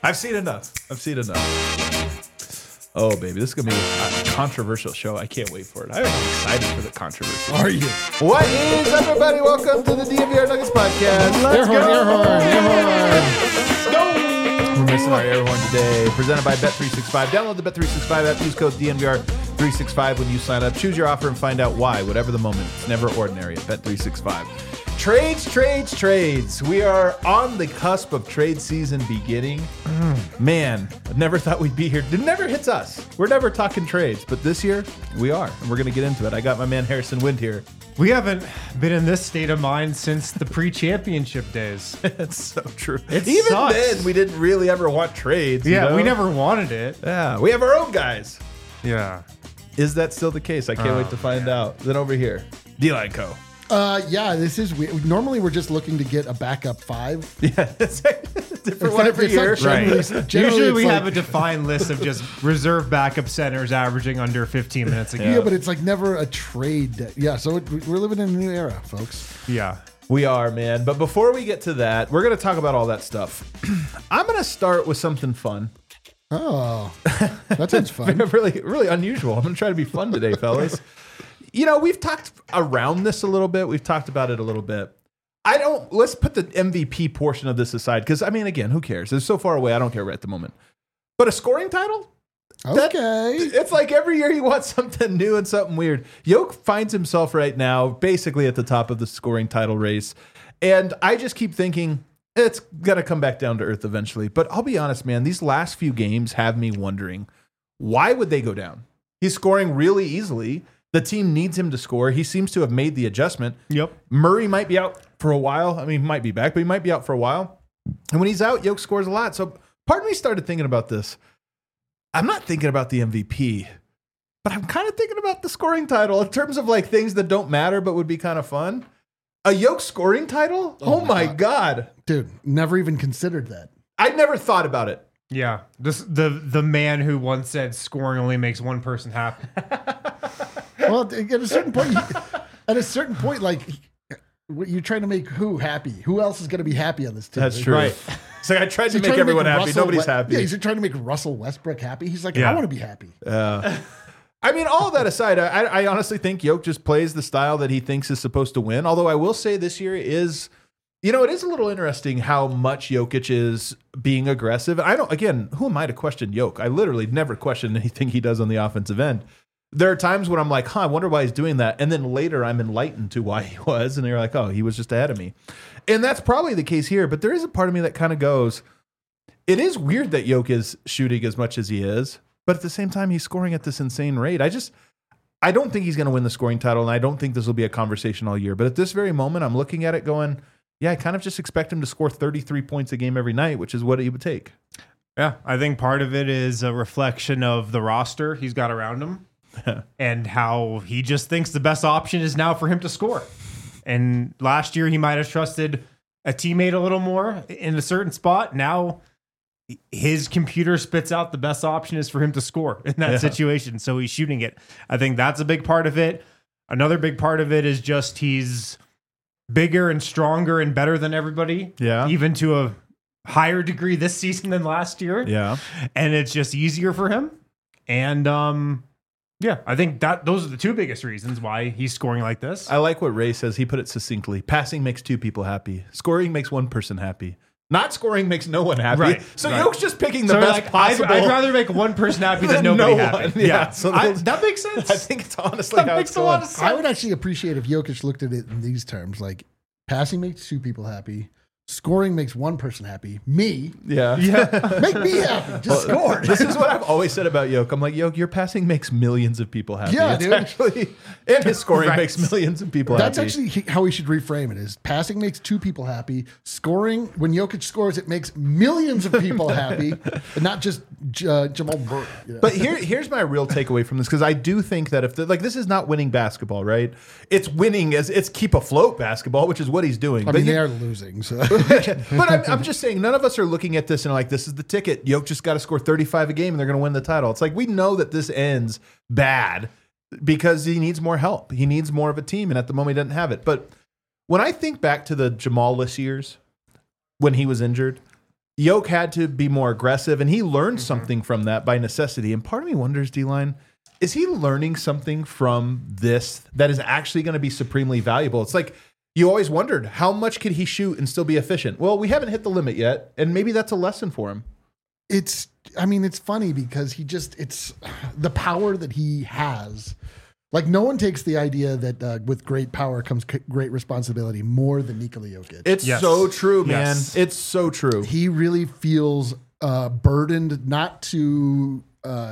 I've seen enough. Oh, baby, this is going to be a controversial show. I can't wait for it. I'm excited for the controversy. Are you? What is up, everybody? Welcome to the DNVR Nuggets podcast. Air horn. Let's go. We're missing our air horn today. Presented by Bet365. Download the Bet365 app. Use code DNVR365 when you sign up. Choose your offer and find out why. Whatever the moment, it's never ordinary at Bet365. Trades. We are on the cusp of trade season beginning. Man, I never thought we'd be here. It never hits us. We're never talking trades, but this year we are, and we're going to get into it. I got my man Harrison Wind here. We haven't been in this state of mind since the pre-championship days. It's so true. Even sucks. Then, we didn't really ever want trades. Yeah, you know? we never wanted it. Yeah, we have our own guys. Yeah. Is that still the case? I can't wait to find out. Then over here, D-Line Co. Yeah, this is weird. Normally, we're just looking to get a backup five. Yeah, it's a different one every year. Usually we have a defined list of just reserve backup centers averaging under 15 minutes a game. Yeah, but it's like never a trade. Yeah, so we're living in a new era, folks. Yeah. We are, man. But before we get to that, we're going to talk about all that stuff. I'm going to start with something fun. Oh, that sounds fun. really unusual. I'm going to try to be fun today, fellas. You know, we've talked around this a little bit. We've talked about it a little bit. Let's put the MVP portion of this aside because, I mean, again, who cares? It's so far away. I don't care right at the moment. But a scoring title? Okay. It's like every year he wants something new and something weird. Yoke finds himself right now basically at the top of the scoring title race. And I just keep thinking it's going to come back down to earth eventually. But I'll be honest, man, these last few games have me wondering, why would they go down? He's scoring really easily. The team needs him to score. He seems to have made the adjustment. Yep. Murray might be out for a while. I mean, he might be back, but he might be out for a while. And when he's out, Yoke scores a lot. So part of me started thinking about this. I'm not thinking about the MVP, but I'm kind of thinking about the scoring title in terms of like things that don't matter but would be kind of fun. A Yoke scoring title? Oh my God. Dude, never even considered that. I never thought about it. Yeah. The man who once said scoring only makes one person happy. Well, at a certain point, like you're trying to make who happy? Who else is going to be happy on this team? That's true. Right. It's like I tried to make everyone happy. Nobody's happy. Yeah, he's trying to make Russell Westbrook happy. He's like, I want to be happy. I mean, all of that aside, I honestly think Yoke just plays the style that he thinks is supposed to win. Although I will say this year is, it is a little interesting how much Jokic is being aggressive. Who am I to question Yoke? I literally never question anything he does on the offensive end. There are times when I'm like, I wonder why he's doing that. And then later I'm enlightened to why he was. And they're like, oh, he was just ahead of me. And that's probably the case here. But there is a part of me that kind of goes, it is weird that Yoke is shooting as much as he is. But at the same time, he's scoring at this insane rate. I don't think he's going to win the scoring title. And I don't think this will be a conversation all year. But at this very moment, I'm looking at it going, yeah, I kind of just expect him to score 33 points a game every night, which is what he would take. Yeah. I think part of it is a reflection of the roster he's got around him. And how he just thinks the best option is now for him to score. And last year he might have trusted a teammate a little more in a certain spot. Now his computer spits out the best option is for him to score in that situation. So he's shooting it. I think that's a big part of it. Another big part of it is just he's bigger and stronger and better than everybody. Yeah. Even to a higher degree this season than last year. Yeah. And it's just easier for him. And yeah, I think those are the two biggest reasons why he's scoring like this. I like what Ray says. He put it succinctly. Passing makes two people happy. Scoring makes one person happy. Not scoring makes no one happy. Right. So Yoke's just picking the best possible. I'd rather make one person happy than nobody happy. Yeah. So that makes sense. I think it's honestly how it's going. I would actually appreciate if Jokic looked at it in these terms, like passing makes two people happy. Scoring makes one person happy. Me. Yeah. Make me happy. Just score. This is what I've always said about Yoke. I'm like, Yoke, your passing makes millions of people happy. Yeah, it's dude. actually, and his scoring makes millions of people That's happy. actually how we should reframe it is passing makes two people happy. Scoring, when Jokic scores, it makes millions of people happy, and not just Jamal Murray. You know? But here's my real takeaway from this, because I do think that if this is not winning basketball, right? It's winning it's keep afloat basketball, which is what he's doing. I mean, they are losing. So. But I'm just saying, none of us are looking at this and like, this is the ticket. Yoke just got to score 35 a game and they're going to win the title. It's like, we know that this ends bad because he needs more help. He needs more of a team. And at the moment, he doesn't have it. But when I think back to the Jamal-less years, when he was injured, Yoke had to be more aggressive, and he learned something from that by necessity. And part of me wonders, D-Line, is he learning something from this that is actually going to be supremely valuable? It's like you always wondered, how much could he shoot and still be efficient? Well, we haven't hit the limit yet, and maybe that's a lesson for him. It's funny because it's the power that he has. Like, no one takes the idea that with great power comes great responsibility more than Nikola Jokic. It's so true, man. Yes. It's so true. He really feels burdened not to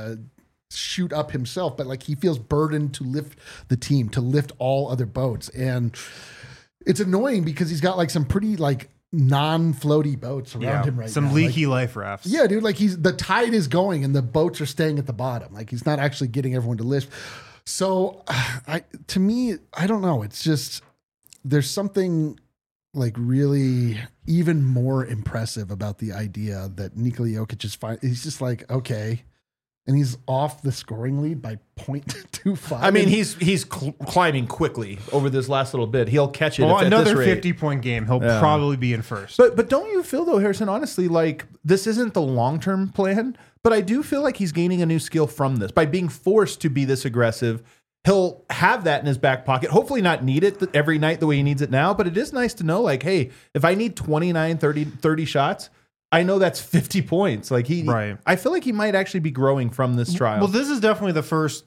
shoot up himself, but like he feels burdened to lift the team, to lift all other boats. And it's annoying because he's got like some pretty like non-floaty boats around him right now. Some leaky life rafts. Yeah, dude, like the tide is going and the boats are staying at the bottom. Like he's not actually getting everyone to lift. So to me, I don't know. It's just, there's something like really even more impressive about the idea that Nikola Jokic is fine. He's just like, okay. And he's off the scoring lead by 0.25. I mean, he's climbing quickly over this last little bit. He'll catch it. Well, at another this rate. 50-point game. He'll probably be in first. But don't you feel though, Harrison, honestly, like this isn't the long-term plan, but I do feel like he's gaining a new skill from this by being forced to be this aggressive. He'll have that in his back pocket. Hopefully not need it every night the way he needs it now, but it is nice to know like, hey, if I need 29, 30 shots, I know that's 50 points. Like I feel like he might actually be growing from this trial. Well, this is definitely the first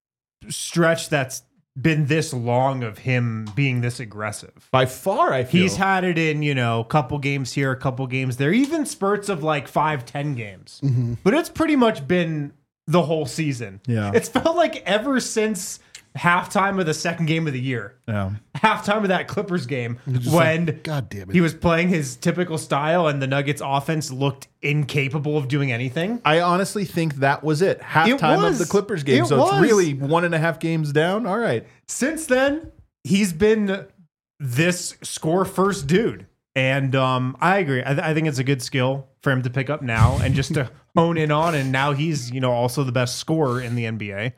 stretch that's been this long of him being this aggressive. By far, I feel. He's had it in, a couple games here, a couple games there, even spurts of like 5-10 games. Mm-hmm. But it's pretty much been the whole season. Yeah. It's felt like ever since halftime of the second game of the year. Yeah. Halftime of that Clippers game when God damn it. he was playing his typical style and the Nuggets offense looked incapable of doing anything. I honestly think that was it. Halftime of the Clippers game. It's really 1.5 games down. All right. Since then, he's been this score first dude. And I agree. I think it's a good skill for him to pick up now and just to hone in on. And now he's, also the best scorer in the NBA.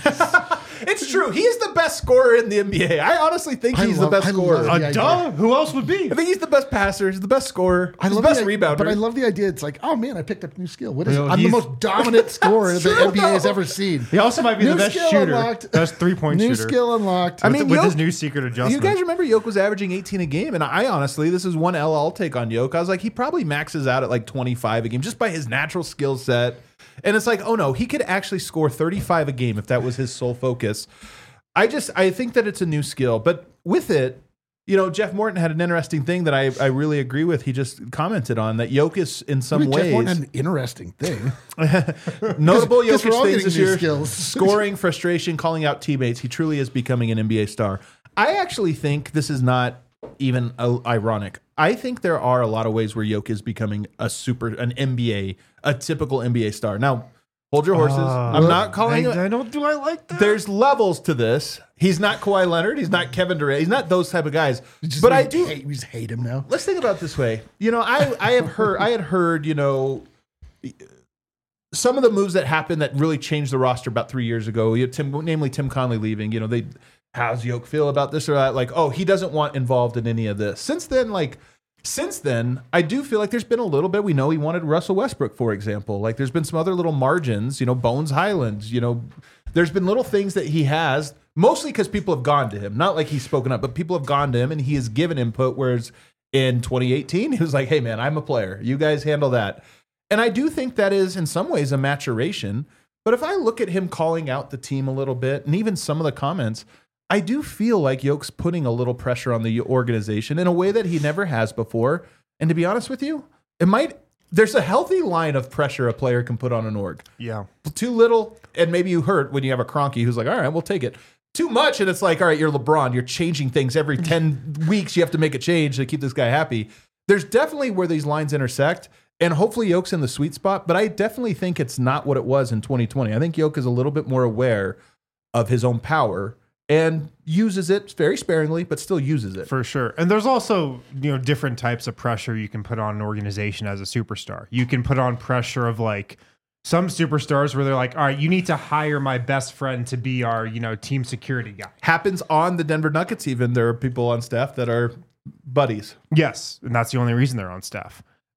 It's true. He is the best scorer in the NBA. I honestly think he's the best scorer. Duh. Who else would be? I think he's the best passer. He's the best scorer. He's the best rebounder. But I love the idea. It's like, oh man, I picked up a new skill. What is it? I'm the most dominant scorer the NBA has ever seen. He also might be the best shooter. Unlocked. Best 3-point shooter. New skill unlocked. With his new secret adjustment. You guys remember Yoke was averaging 18 a game, and I honestly, this is one L I'll take on Yoke. I was like, he probably maxes out at like 25 a game just by his natural skill set. And it's like, oh no, he could actually score 35 a game if that was his sole focus. I think that it's a new skill, but with it, Jeff Morton had an interesting thing that I really agree with. He just commented on that Yoke is in some ways. Jeff Morton had an interesting thing. Notable Jokic things this year: skills. scoring, frustration, calling out teammates. He truly is becoming an NBA star. I actually think this is not even ironic. I think there are a lot of ways where Yoke is becoming an NBA, a typical NBA star. Now, hold your horses. I'm not calling it. I like that. There's levels to this. He's not Kawhi Leonard. He's not Kevin Durant. He's not those type of guys. But I do. We just hate him now. Let's think about it this way. I had heard, some of the moves that happened that really changed the roster about 3 years ago. Namely Tim Conley leaving. How's Yoke feel about this or that? Like, oh, he doesn't want involved in any of this. Since then, I do feel like there's been a little bit. We know he wanted Russell Westbrook, for example. Like, there's been some other little margins, Bones Highlands, there's been little things that he has, mostly because people have gone to him. Not like he's spoken up, but people have gone to him and he has given input. Whereas in 2018, he was like, hey, man, I'm a player. You guys handle that. And I do think that is, in some ways, a maturation. But if I look at him calling out the team a little bit, and even some of the comments, I do feel like Yoke's putting a little pressure on the organization in a way that he never has before. And to be honest with you, there's a healthy line of pressure a player can put on an org. Yeah. Too little, and maybe you hurt when you have a Kroenke who's like, all right, we'll take it. Too much, and it's like, all right, you're LeBron. You're changing things every 10 weeks. You have to make a change to keep this guy happy. There's definitely where these lines intersect, and hopefully Yoke's in the sweet spot, but I definitely think it's not what it was in 2020. I think Yoke is a little bit more aware of his own power and uses it very sparingly, but still uses it. For sure. And there's also, different types of pressure you can put on an organization as a superstar. You can put on pressure of like some superstars where they're like, all right, you need to hire my best friend to be our, team security guy. Happens on the Denver Nuggets even. There are people on staff that are buddies. Yes. And that's the only reason they're on staff.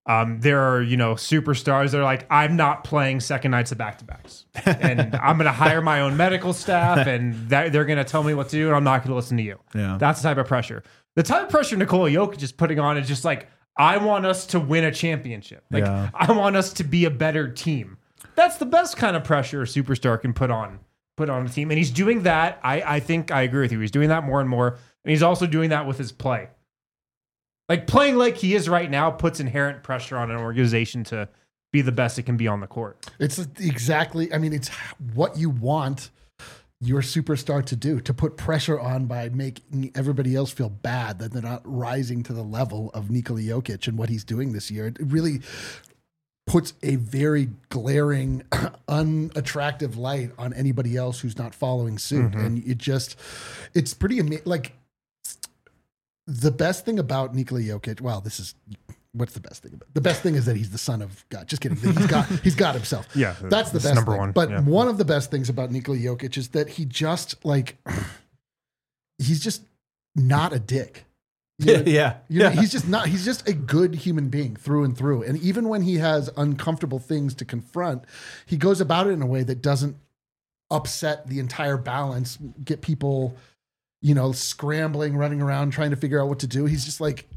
There are, superstars that are like, I'm not playing second nights of back-to-backs. And I'm going to hire my own medical staff, and they're going to tell me what to do, and I'm not going to listen to you. Yeah. That's the type of pressure. The type of pressure Nikola Jokic is putting on is just like, I want us to win a championship. Like, I want us to be a better team. That's the best kind of pressure a superstar can put on a team. And he's doing that. I think I agree with you. He's doing that more and more. And he's also doing that with his play. Like, playing like he is right now puts inherent pressure on an organization to be the best it can be on the court. It's exactly, it's what you want your superstar to do, to put pressure on by making everybody else feel bad that they're not rising to the level of Nikola Jokic and what he's doing this year. It really puts a very glaring, unattractive light on anybody else who's not following suit. Mm-hmm. And it's pretty amazing. Like, the best thing about Nikola Jokic, what's the best thing about? The best thing is that he's the son of God. Just kidding. He's got himself. Yeah, that's the best number thing. one. But one of the best things about Nikola Jokic is that he just he's just not a dick. He's just not. He's just a good human being through and through. And even when he has uncomfortable things to confront, he goes about it in a way that doesn't upset the entire balance, get people, scrambling, running around, trying to figure out what to do. He's just like,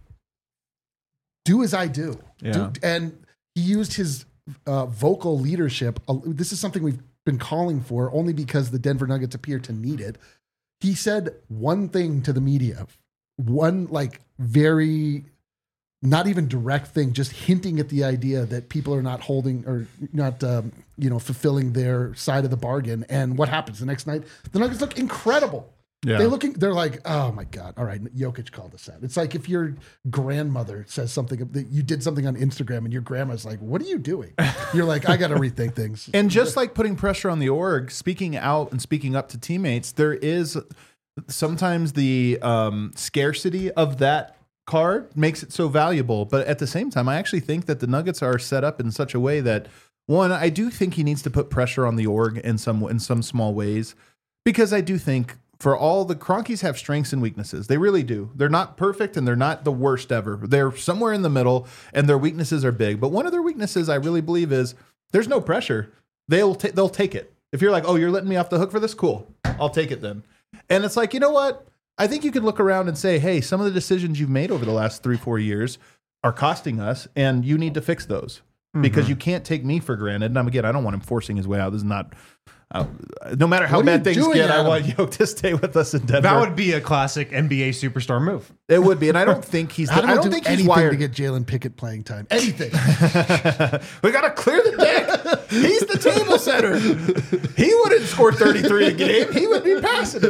do as I do. And he used his vocal leadership. This is something we've been calling for only because the Denver Nuggets appear to need it. He said one thing to the media, one very not even direct thing, just hinting at the idea that people are not holding or not, fulfilling their side of the bargain. And what happens the next night? The Nuggets look incredible. Yeah. They're like, oh my God. All right. Jokic called us out. It's like if your grandmother says something, that you did something on Instagram and your grandma's like, what are you doing? You're like, I got to rethink things. And just like putting pressure on the org, speaking out and speaking up to teammates, there is sometimes the scarcity of that card makes it so valuable. But at the same time, I actually think that the Nuggets are set up in such a way that, one, I do think he needs to put pressure on the org in some small ways, because I do think, for all the Cronkies have strengths and weaknesses. They really do. They're not perfect and they're not the worst ever. They're somewhere in the middle and their weaknesses are big. But one of their weaknesses, I really believe, is there's no pressure. They'll take it. If you're like, oh, you're letting me off the hook for this? Cool. I'll take it then. And it's like, you know what? I think you could look around and say, hey, some of the decisions you've made over the last 3-4 years are costing us and you need to fix those because you can't take me for granted. And again, I don't want him forcing his way out. This is not... no matter how bad things get, I want Yoke to stay with us in Denver. That would be a classic NBA superstar move. It would be, and I don't think he's. I don't think he's wired to get Jalen Pickett playing time. Anything. We got to clear the deck. He's the table setter. He wouldn't score 33 a game. He would be passing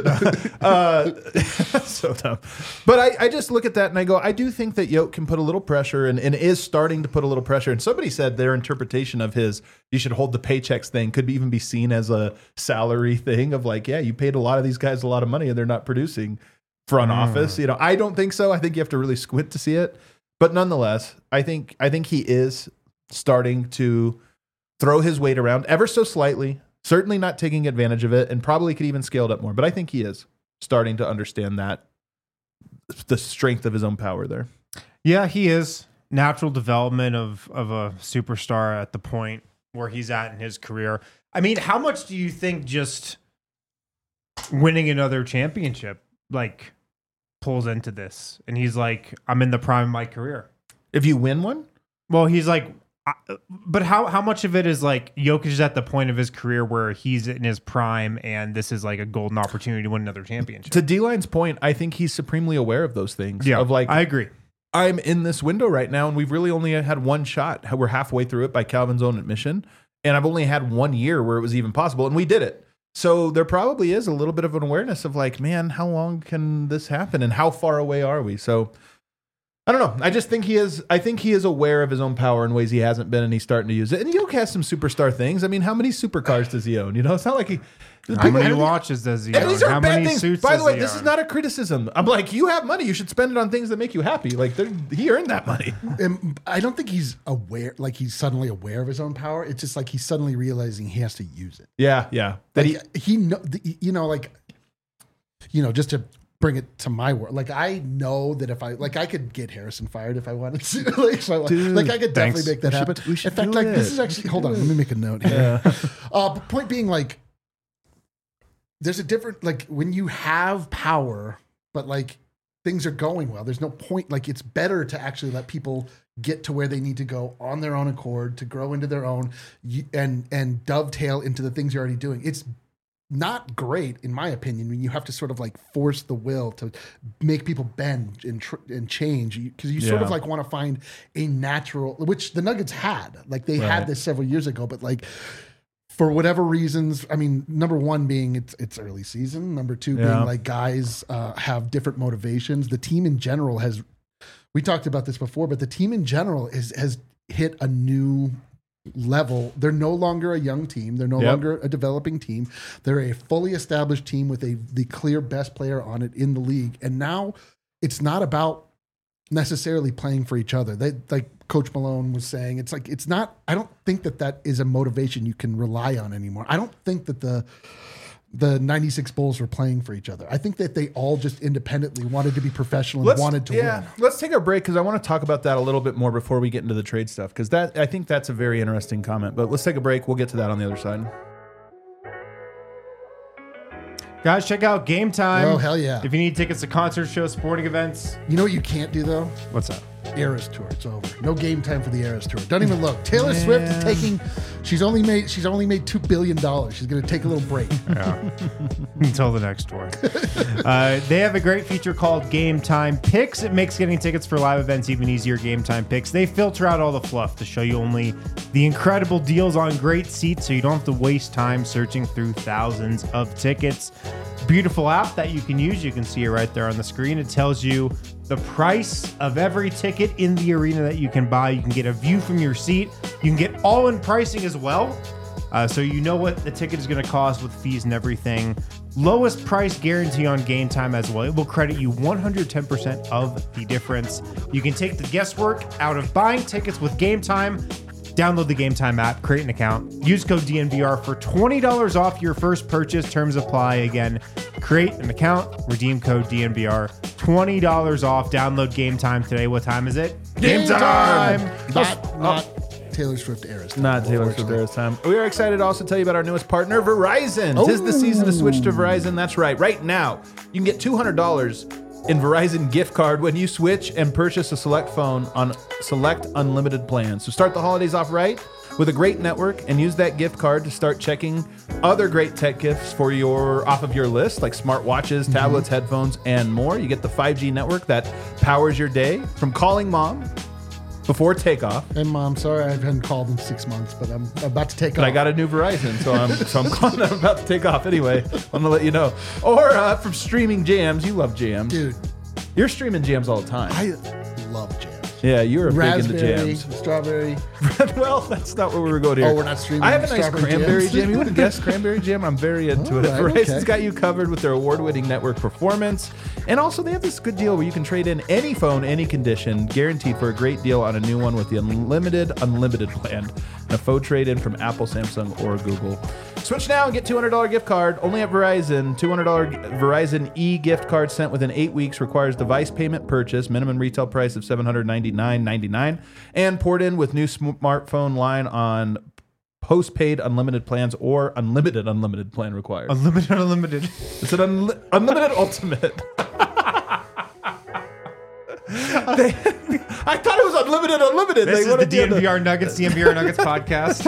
it. So dumb. But I just look at that and I go, I do think that Yoke can put a little pressure and is starting to put a little pressure. And somebody said their interpretation of his "you should hold the paychecks" thing could even be seen as a salary thing of like, yeah, you paid a lot of these guys a lot of money and they're not producing front office. I don't think so. I think you have to really squint to see it. But nonetheless, I think he is starting to throw his weight around ever so slightly, certainly not taking advantage of it, and probably could even scale it up more. But I think he is starting to understand that the strength of his own power there. Yeah, he is. Natural development of a superstar at the point where he's at in his career. I mean, how much do you think just winning another championship pulls into this? And he's like, I'm in the prime of my career. If you win one? Well, he's like, but how much of it is like Jokic is at the point of his career where he's in his prime and this is like a golden opportunity to win another championship? To D-Line's point, I think he's supremely aware of those things. Yeah, I agree. I'm in this window right now and we've really only had one shot. We're halfway through it by Calvin's own admission. And I've only had 1 year where it was even possible, and we did it. So there probably is a little bit of an awareness of like, man, how long can this happen, and how far away are we? So I don't know. I just think he is. I think he is aware of his own power in ways he hasn't been, and he's starting to use it. And Yoke has some superstar things. I mean, how many supercars does he own? It's not like he. How many watches does he own? These are how bad many things. suits By the way, does he this own? is not a criticism. I'm like, you have money. You should spend it on things that make you happy. Like he earned that money. I don't think he's aware. Like he's suddenly aware of his own power. It's just like he's suddenly realizing he has to use it. Yeah. That just to bring it to my world. Like I know that if I could get Harrison fired if I wanted to. Like, if I, Dude, like I could definitely make that happen. we should In fact, do like it. this is actually hold on, let me make a note here. But point being, like, there's a different, like, when you have power, but like things are going well, there's no point. Like, it's better to actually let people get to where they need to go on their own accord, to grow into their own and dovetail into the things you're already doing. It's not great, in my opinion, when you have to sort of like force the will to make people bend and change, because you sort of like want to find a natural, which the Nuggets had. Like they had this several years ago, but like for whatever reasons, I mean, number one being it's early season. Number two being like guys have different motivations. The team in general has, we talked about this before, but the team in general has hit a new level. They're no longer a young team. They're no longer a developing team. They're a fully established team with the clear best player on it in the league. And now it's not about necessarily playing for each other. They, like Coach Malone was saying, it's like, it's not, I don't think that is a motivation you can rely on anymore. I don't think that the 96 Bulls were playing for each other. I think that they all just independently wanted to be professional and wanted to win. Let's take our break because I want to talk about that a little bit more before we get into the trade stuff, because that, I think that's a very interesting comment. But let's take a break. We'll get to that on the other side. Guys, check out Game Time. Oh, hell yeah. If you need tickets to concerts, shows, sporting events. You know what you can't do, though? What's that? Eras Tour. It's over. No Game Time for the Eras Tour. Don't even look. Taylor Swift is taking. She's only made $2 billion. She's going to take a little break. Yeah. Until the next tour. They have a great feature called Game Time Picks. It makes getting tickets for live events even easier. Game Time Picks. They filter out all the fluff to show you only the incredible deals on great seats, so you don't have to waste time searching through thousands of tickets. Beautiful app that you can use. You can see it right there on the screen. It tells you the price of every ticket in the arena that you can buy. You can get a view from your seat. You can get all-in pricing as well. So you know what the ticket is going to cost with fees and everything. Lowest price guarantee on Game Time as well. It will credit you 110% of the difference. You can take the guesswork out of buying tickets with Game Time. Download the Game Time app, create an account, use code DNVR for $20 off your first purchase. Terms apply. Again, create an account, redeem code DNVR, $20 off. Download Game Time today. What time is it? Game time! Not Taylor Swift Eras time. Not Taylor Swift Eras time. We are excited to also tell you about our newest partner, Verizon. 'Tis the season to switch to Verizon. That's right. Right now, you can get $200 in Verizon gift card when you switch and purchase a select phone on select unlimited plans. So start the holidays off right with a great network and use that gift card to start checking other great tech gifts for off of your list, like smartwatches, tablets, headphones, and more. You get the 5G network that powers your day, from calling mom before takeoff. And Mom, sorry I haven't called in 6 months, but I'm about to take off. But I got a new Verizon, so I'm calling. I'm about to take off anyway. I'm gonna let you know. Or from streaming jams. You love jams, Dude, you're streaming jams all the time. I love jams. Yeah, you're a big into Raspberry, jams. strawberry. Well, that's not where we were going here. Oh, we're not streaming I have a nice strawberry cranberry jams? jam. You wouldn't guess cranberry jam? I'm very into it. All right, Verizon's okay. got you covered with their award-winning network performance. And also, they have this good deal where you can trade in any phone, any condition, guaranteed for a great deal on a new one with the unlimited plan. And a faux trade-in from Apple, Samsung, or Google. Switch now and get $200 gift card only at Verizon. $200 Verizon e-gift card sent within 8 weeks. Requires device payment purchase. Minimum retail price of $799.99. And poured in with new smartphone line on postpaid unlimited plans or unlimited plan required. Unlimited. It's an unlimited ultimate. I thought it was unlimited. This is the DNVR Nuggets podcast.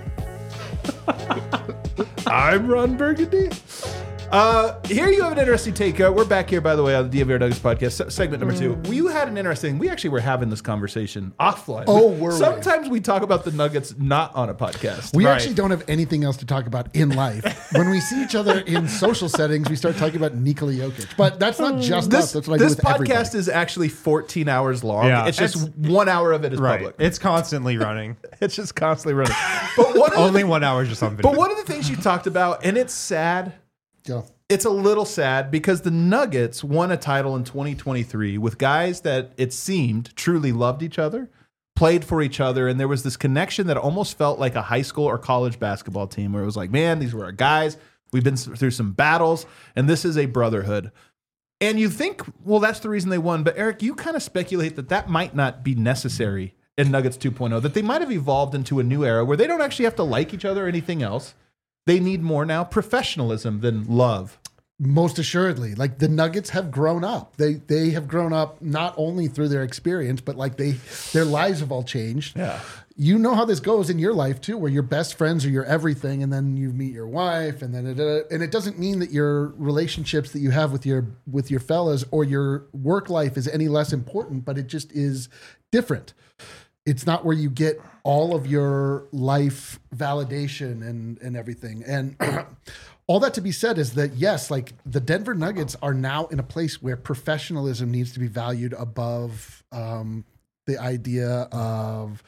I'm Ron Burgundy. Here you have an interesting take. We're back here, by the way, on the DNVR Nuggets podcast, segment number 2. We had an interesting. We actually were having this conversation offline. Oh, were we? Sometimes we talk about the Nuggets not on a podcast. We actually don't have anything else to talk about in life. When we see each other in social settings, we start talking about Nikola Jokic. But that's not just us. That's what I do This with everybody. podcast is actually 14 hours long. Yeah. It's just 1 hour of it is public. It's constantly running. It's just constantly running. But one of Only 1 hour is just on video. But one of the things you talked about, and it's sad. Go. It's a little sad because the Nuggets won a title in 2023 with guys that it seemed truly loved each other, played for each other, and there was this connection that almost felt like a high school or college basketball team where it was like, man, these were our guys. We've been through some battles, and this is a brotherhood. And you think, well, that's the reason they won. But Eric, you kind of speculate that might not be necessary in Nuggets 2.0, that they might have evolved into a new era where they don't actually have to like each other or anything else. They need more now professionalism than love. Most assuredly, like the Nuggets have grown up. They have grown up not only through their experience, but like their lives have all changed. Yeah. You know how this goes in your life too, where your best friends are your everything, and then you meet your wife, and then and it doesn't mean that your relationships that you have with your fellas or your work life is any less important, but it just is different. It's not where you get all of your life validation and everything. And all that to be said is that, yes, like the Denver Nuggets are now in a place where professionalism needs to be valued above the idea of,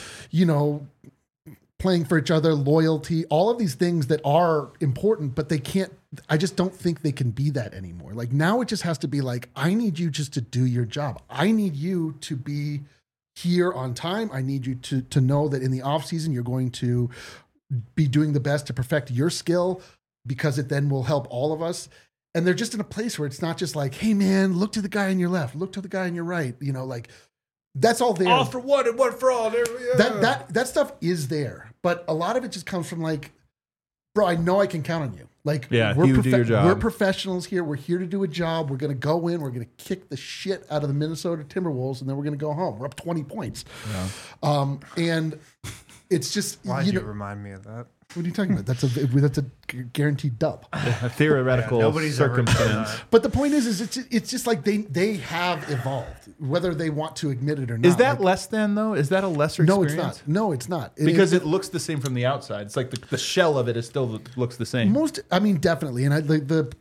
playing for each other, loyalty, all of these things that are important, but I just don't think they can be that anymore. Like now it just has to be like, I need you just to do your job. I need you to be here on time. I need you to know that in the off season, you're going to be doing the best to perfect your skill, because it then will help all of us. And they're just in a place where it's not just like, hey man, look to the guy on your left, look to the guy on your right. Like that's all there. All for one and one for all. That stuff is there. But a lot of it just comes from like, bro, I know I can count on you. Like, you do your job. We're professionals here. We're here to do a job. We're going to go in. We're going to kick the shit out of the Minnesota Timberwolves, and then we're going to go home. We're up 20 points. Yeah. And it's just, why'd you remind me of that? What are you talking about? That's a guaranteed dub. A theoretical nobody's circumstance. But the point is it's just like they have evolved, whether they want to admit it or not. Is that less than though? Is that a lesser experience? No, it's not. Because it looks the same from the outside. It's like the shell of it is still looks the same. Definitely. And the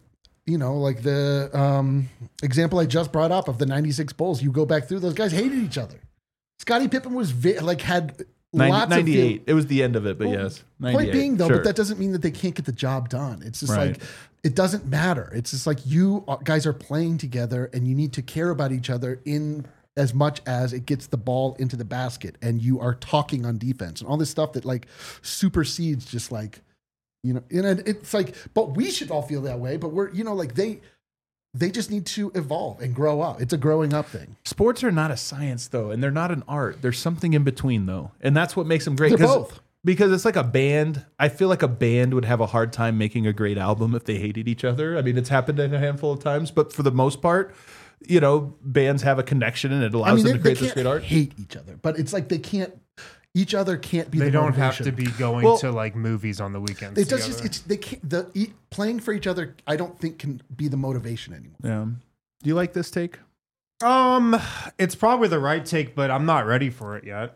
example I just brought up of the 96 Bulls, you go back through, those guys hated each other. Scottie Pippen was had 98. It was the end of it, but yes. Point being, though, but that doesn't mean that they can't get the job done. It's just like, it doesn't matter. It's just like you guys are playing together and you need to care about each other in as much as it gets the ball into the basket and you are talking on defense and all this stuff that like supersedes just like, and it's like, but we should all feel that way. But we're, like they just need to evolve and grow up. It's a growing up thing. Sports are not a science, though, and they're not an art. There's something in between, though, and that's what makes them great. They're both. Because it's like a band. I feel like a band would have a hard time making a great album if they hated each other. I mean, it's happened a handful of times, but for the most part, bands have a connection, and it allows them to create this great art. Hate each other, but it's like they can't. Each other can't be. They the don't motivation. have to be going to like movies on the weekends. It does just. They can't. Playing for each other, I don't think can be the motivation anymore. Yeah. Do you like this take? It's probably the right take, but I'm not ready for it yet.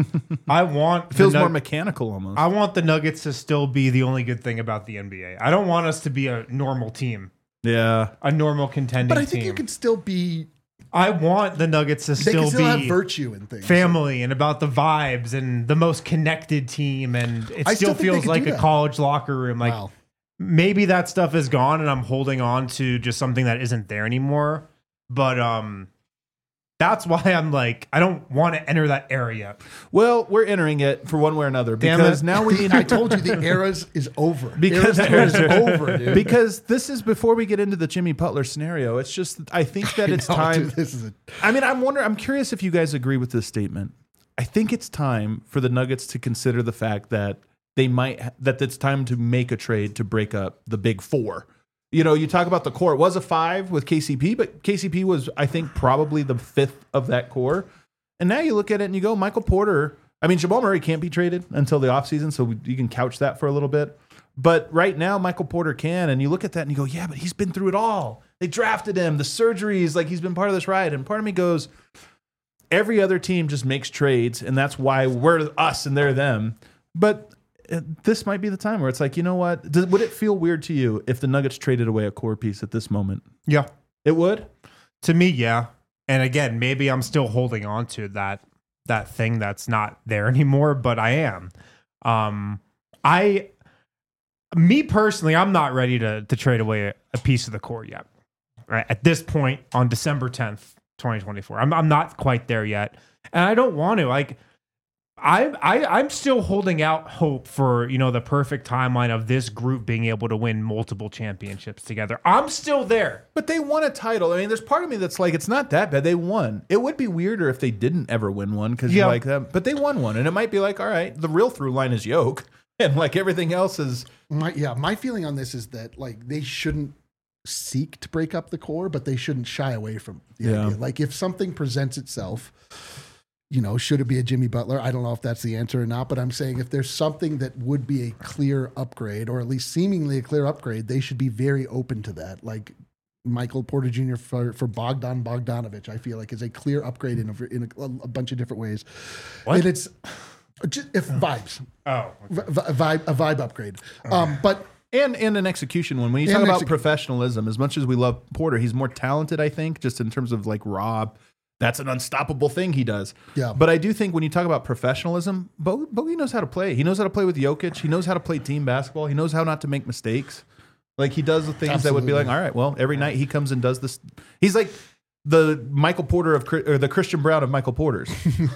It feels more mechanical almost. I want the Nuggets to still be the only good thing about the NBA. I don't want us to be a normal team. Yeah. A normal contending team. But I think you can still be. I want the Nuggets to still be have virtue and things. Family and about the vibes and the most connected team. And it still feels like a college locker room. Like, wow. Maybe that stuff is gone and I'm holding on to just something that isn't there anymore. But that's why I'm like, I don't want to enter that area. Well, we're entering it for one way or another because now we need. I told you the era is over. Because the era is over, dude. Because this is before we get into the Jimmy Butler scenario. It's just I think that it's time. Dude, I'm curious if you guys agree with this statement. I think it's time for the Nuggets to consider the fact that that it's time to make a trade to break up the big four. You talk about the core. It was a 5 with KCP, but KCP was, I think, probably the 5th of that core. And now you look at it and you go, Michael Porter. I mean, Jamal Murray can't be traded until the offseason, so you can couch that for a little bit. But right now, Michael Porter can. And you look at that and you go, yeah, but he's been through it all. They drafted him, the surgeries, like he's been part of this ride. And part of me goes, every other team just makes trades, and that's why we're us and they're them. But this might be the time where it's like, you know what? Would it feel weird to you if the Nuggets traded away a core piece at this moment? Yeah. It would? To me, yeah. And again, maybe I'm still holding on to that thing that's not there anymore, but I am. Me personally, I'm not ready to trade away a piece of the core yet. Right? At this point on December 10th, 2024. I'm not quite there yet. And I don't want to. Like, I'm still holding out hope for, the perfect timeline of this group being able to win multiple championships together. I'm still there. But they won a title. I mean, there's part of me that's like, it's not that bad. They won. It would be weirder if they didn't ever win one because you're like them. But they won one. And it might be like, all right, the real through line is Yoke. And like everything else is. My feeling on this is that like they shouldn't seek to break up the core, but they shouldn't shy away from the idea. Like if something presents itself, should it be a Jimmy Butler? I don't know if that's the answer or not, but I'm saying if there's something that would be a clear upgrade, or at least seemingly a clear upgrade, they should be very open to that. Like Michael Porter Jr. for Bogdan Bogdanovic, I feel like is a clear upgrade in a bunch of different ways. What? And it's just if vibes. Oh, okay. A vibe upgrade. But And an execution one. When you talk about professionalism, as much as we love Porter, he's more talented, I think, just in terms of like Rob. That's an unstoppable thing he does. Yeah. But I do think when you talk about professionalism, Bogey knows how to play. He knows how to play with Jokic. He knows how to play team basketball. He knows how not to make mistakes. Like he does the things that would be like, all right, well, every night he comes and does this. He's like the Michael Porter or the Christian Brown of Michael Porters.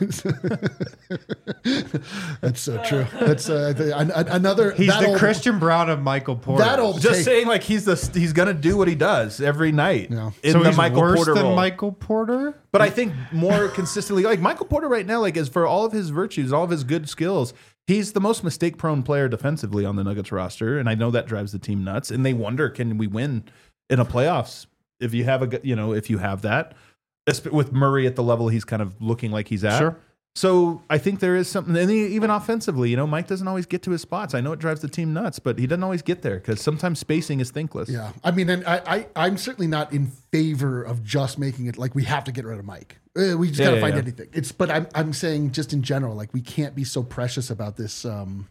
That's so true. That's another. He's the Christian Brown of Michael Porter. Just saying, like he's gonna do what he does every night Yeah. in so the he's Michael worse Porter than role. Michael Porter. But I think more consistently, like Michael Porter right now, like as for all of his virtues, all of his good skills, he's the most mistake-prone player defensively on the Nuggets roster, and I know that drives the team nuts. And they wonder, can we win in a playoffs if you have if you have that, with Murray at the level he's kind of looking like he's at. Sure. So I think there is something, and even offensively, Mike doesn't always get to his spots. I know it drives the team nuts, but he doesn't always get there because sometimes spacing is thinkless. Yeah, I mean, and I'm certainly not in favor of just making it like we have to get rid of Mike. We just got to find anything. But I'm saying just in general, like we can't be so precious about this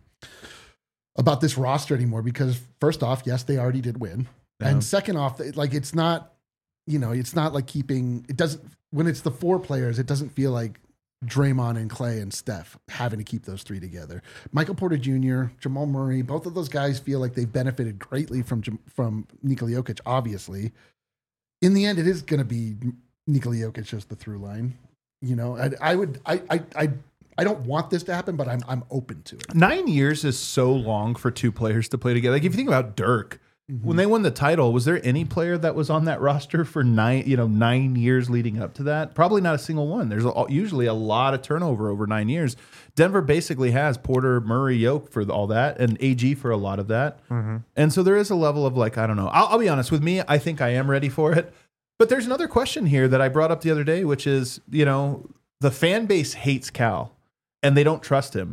roster anymore because first off, yes, they already did win, and second off, like it's not, it's not like keeping. It doesn't when it's the four players. It doesn't feel like Draymond and Clay and Steph having to keep those three together. Michael Porter Jr., Jamal Murray, both of those guys feel like they've benefited greatly from Nikola Jokic. Obviously, in the end, it is going to be Nikola Jokic as the through line. I don't want this to happen, but I'm open to it. 9 years is so long for two players to play together. Like if you think about Dirk, when they won the title, was there any player that was on that roster for 9 years leading up to that? Probably not a single one. There's usually a lot of turnover over 9 years. Denver basically has Porter, Murray, Yoke for all that, and AG for a lot of that. And so there is a level of like, I don't know. I'll be honest with me. I think I am ready for it. But there's another question here that I brought up the other day, which is, the fan base hates Cal and they don't trust him.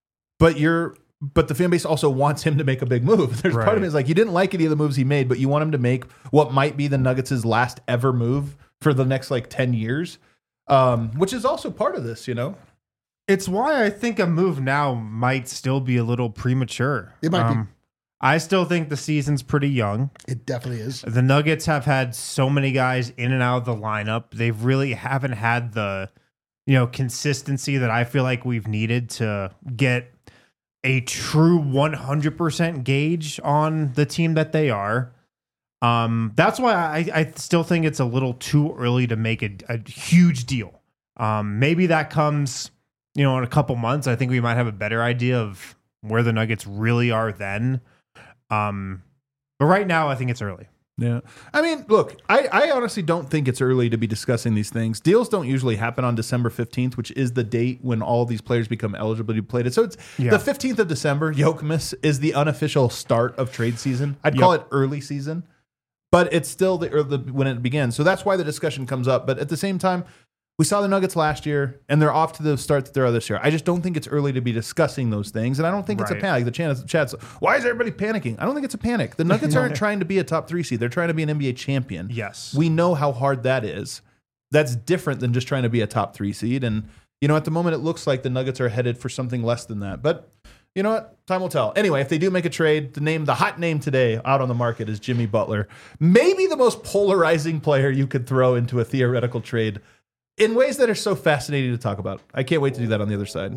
But the fan base also wants him to make a big move. There's part of me is like, you didn't like any of the moves he made, but you want him to make what might be the Nuggets' last ever move for the next 10 years, which is also part of this, It's why I think a move now might still be a little premature. It might be. I still think the season's pretty young. It definitely is. The Nuggets have had so many guys in and out of the lineup. They've really haven't had the, consistency that I feel like we've needed to get a true 100% gauge on the team that they are. That's why I still think it's a little too early to make a huge deal. Maybe that comes, in a couple months. I think we might have a better idea of where the Nuggets really are then. But right now, I think it's early. Yeah. I mean, look, I honestly don't think it's early to be discussing these things. Deals don't usually happen on December 15th, which is the date when all these players become eligible to be played. So it's the 15th of December. Yokemas is the unofficial start of trade season. I'd call it early season, but it's still when it begins. So that's why the discussion comes up. But at the same time, we saw the Nuggets last year, and they're off to the start that they're this year. I just don't think it's early to be discussing those things, and I don't think it's a panic. The chat's, why is everybody panicking? I don't think it's a panic. The Nuggets aren't trying to be a top 3 seed. They're trying to be an NBA champion. Yes. We know how hard that is. That's different than just trying to be a top 3 seed, and at the moment it looks like the Nuggets are headed for something less than that. But you know what? Time will tell. Anyway, if they do make a trade, the hot name today out on the market is Jimmy Butler. Maybe the most polarizing player you could throw into a theoretical trade in ways that are so fascinating to talk about. I can't wait to do that on the other side.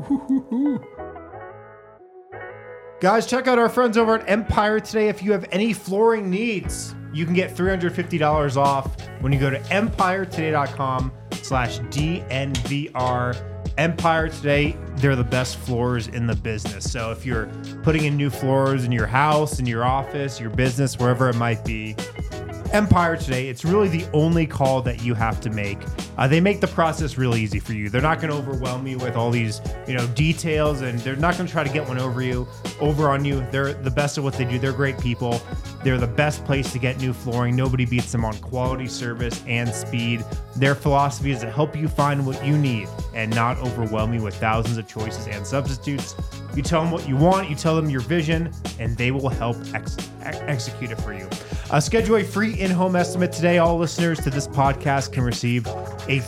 Guys, check out our friends over at Empire today. If you have any flooring needs, you can get $350 off when you go to empiretoday.com/DNVR. Empire today, they're the best floors in the business. So if you're putting in new floors in your house, in your office, your business, wherever it might be, Empire today, it's really the only call that you have to make. They make the process really easy for you. They're not going to overwhelm you with all these, details, and they're not going to try to get one over on you. They're the best at what they do. They're great people. They're the best place to get new flooring. Nobody beats them on quality, service, and speed. Their philosophy is to help you find what you need and not overwhelm you with thousands of choices and substitutes. You tell them what you want, you tell them your vision, and they will help execute it for you. Schedule a free in-home estimate today. All listeners to this podcast can receive a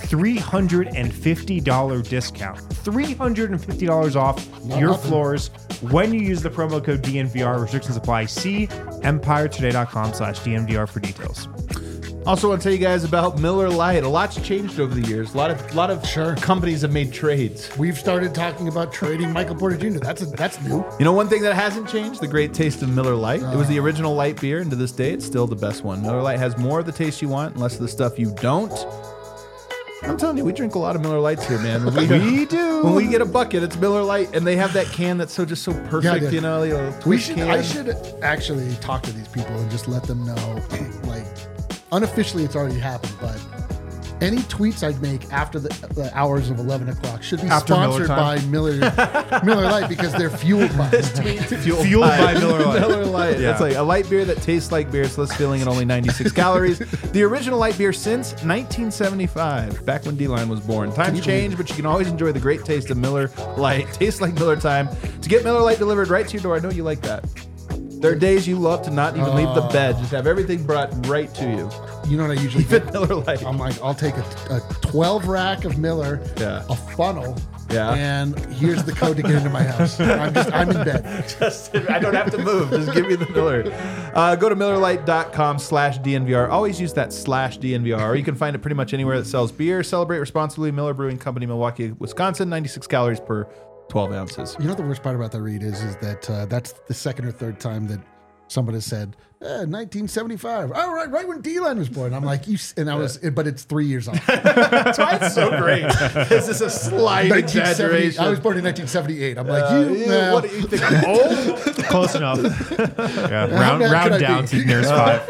$350 discount. $350 off your floors when you use the promo code DNVR. Restrictions apply. See empiretoday.com/DNVR for details. Also want to tell you guys about Miller Lite. A lot's changed over the years. A lot of companies have made trades. We've started talking about trading Michael Porter Jr. That's new. One thing that hasn't changed, the great taste of Miller Lite. It was the original light beer, and to this day, it's still the best one. Miller Lite has more of the taste you want and less of the stuff you don't. I'm telling you, we drink a lot of Miller Lights here, man. We do. When we get a bucket, it's Miller Lite, and they have that can that's so perfect, I should actually talk to these people and just let them know, like, unofficially it's already happened, but any tweets I'd make after the hours of 11 o'clock should be sponsored by Miller Lite, because they're fueled by it. Fueled by Miller Lite. Miller Lite. Yeah. It's like a light beer that tastes like beer. It's less filling and only 96 calories. The original light beer since 1975, back when D-Line was born. Times change, but you can always enjoy the great taste of Miller Lite. Tastes like Miller time. To get Miller Lite delivered right to your door, I know you like that. There are days you love to not even leave the bed, just have everything brought right to you. You know what I usually Fit Miller Lite. I'm like, I'll take a 12 rack of Miller, a funnel, and here's the code to get into my house. I'm in bed. I don't have to move. Just give me the Miller. Go to MillerLite.com/DNVR. Always use that /DNVR. Or you can find it pretty much anywhere that sells beer. Celebrate responsibly. Miller Brewing Company, Milwaukee, Wisconsin. 96 calories per 12 ounces. You know, the worst part about that read is that that's the second or third time that somebody said 1975. Oh, right when D-Line was born. I'm like, but it's 3 years off. That's why it's so great. This is a slight exaggeration. I was born in 1978. I'm like, what do you think? I'm old? Close enough. Round down to nearest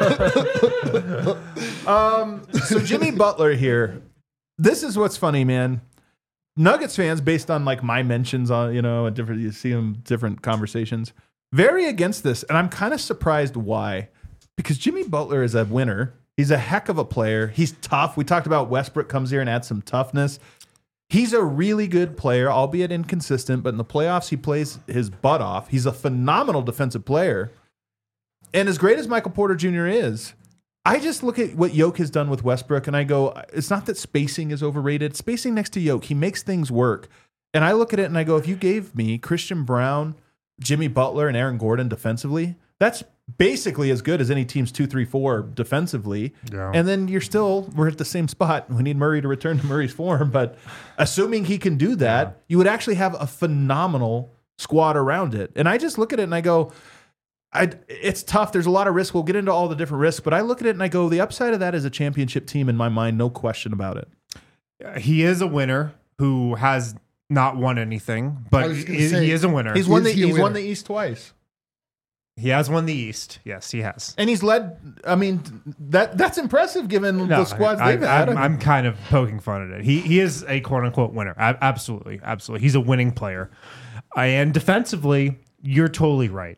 5. So Jimmy Butler here. This is what's funny, man. Nuggets fans, based on like my mentions on, you see them different conversations, very against this. And I'm kind of surprised why. Because Jimmy Butler is a winner. He's a heck of a player. He's tough. We talked about Westbrook comes here and adds some toughness. He's a really good player, albeit inconsistent, but in the playoffs, he plays his butt off. He's a phenomenal defensive player. And as great as Michael Porter Jr. is, I just look at what Yoke has done with Westbrook, and I go, it's not that spacing is overrated. Spacing next to Yoke, he makes things work. And I look at it and I go, if you gave me Christian Brown, Jimmy Butler, and Aaron Gordon defensively, that's basically as good as any team's 2-3-4 defensively. Yeah. And then we're at the same spot. We need Murray to return to Murray's form. But assuming he can do that, you would actually have a phenomenal squad around it. And I just look at it and I go, it's tough. There's a lot of risk. We'll get into all the different risks, but I look at it and I go, the upside of that is a championship team in my mind, no question about it. He is a winner who has not won anything, but he is a winner. He's won the East twice. He has won the East. Yes, he has. And he's led, I mean, that's impressive given the squads they've had. I'm kind of poking fun at it. He is a quote-unquote winner. Absolutely. Absolutely. He's a winning player. And defensively, you're totally right.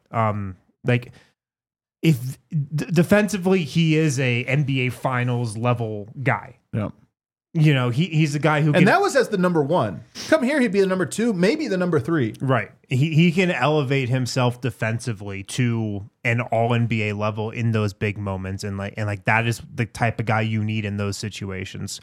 If defensively, he is a NBA Finals level guy. Yeah. He's the guy who can, and that was as the number one. Come here, he'd be the number two, maybe the number three. Right. He can elevate himself defensively to an all NBA level in those big moments, and that is the type of guy you need in those situations.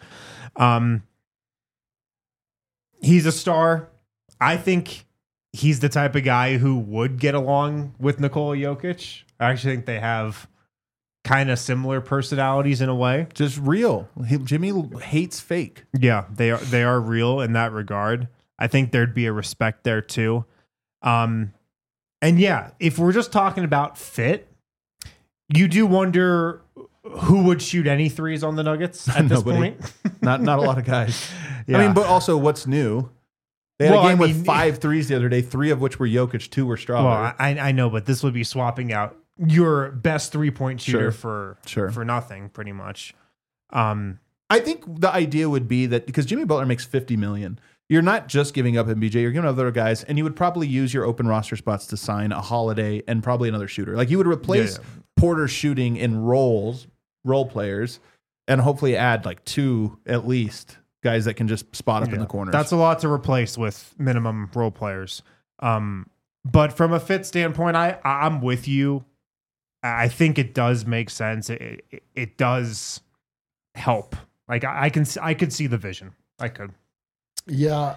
He's a star. I think he's the type of guy who would get along with Nikola Jokic. I actually think they have kind of similar personalities in a way. Just real. Jimmy hates fake. Yeah, they are real in that regard. I think there'd be a respect there too. And yeah, if we're just talking about fit, you do wonder who would shoot any threes on the Nuggets at this point. Not a lot of guys. Yeah. I mean, but also what's new? They had a game with 5 threes the other day, 3 of which were Jokic, 2 were Strawberry. Well, I know, but this would be swapping out your best 3-point shooter for nothing, pretty much. I think the idea would be that because Jimmy Butler makes $50 million, you're not just giving up MBJ, you're giving up other guys, and you would probably use your open roster spots to sign a Holiday and probably another shooter. Like you would replace Porter's shooting in role players, and hopefully add like 2 at least guys that can just spot up in the corners. That's a lot to replace with minimum role players. But from a fit standpoint, I'm with you. I think it does make sense. It does help. Like I could see the vision. I could. Yeah,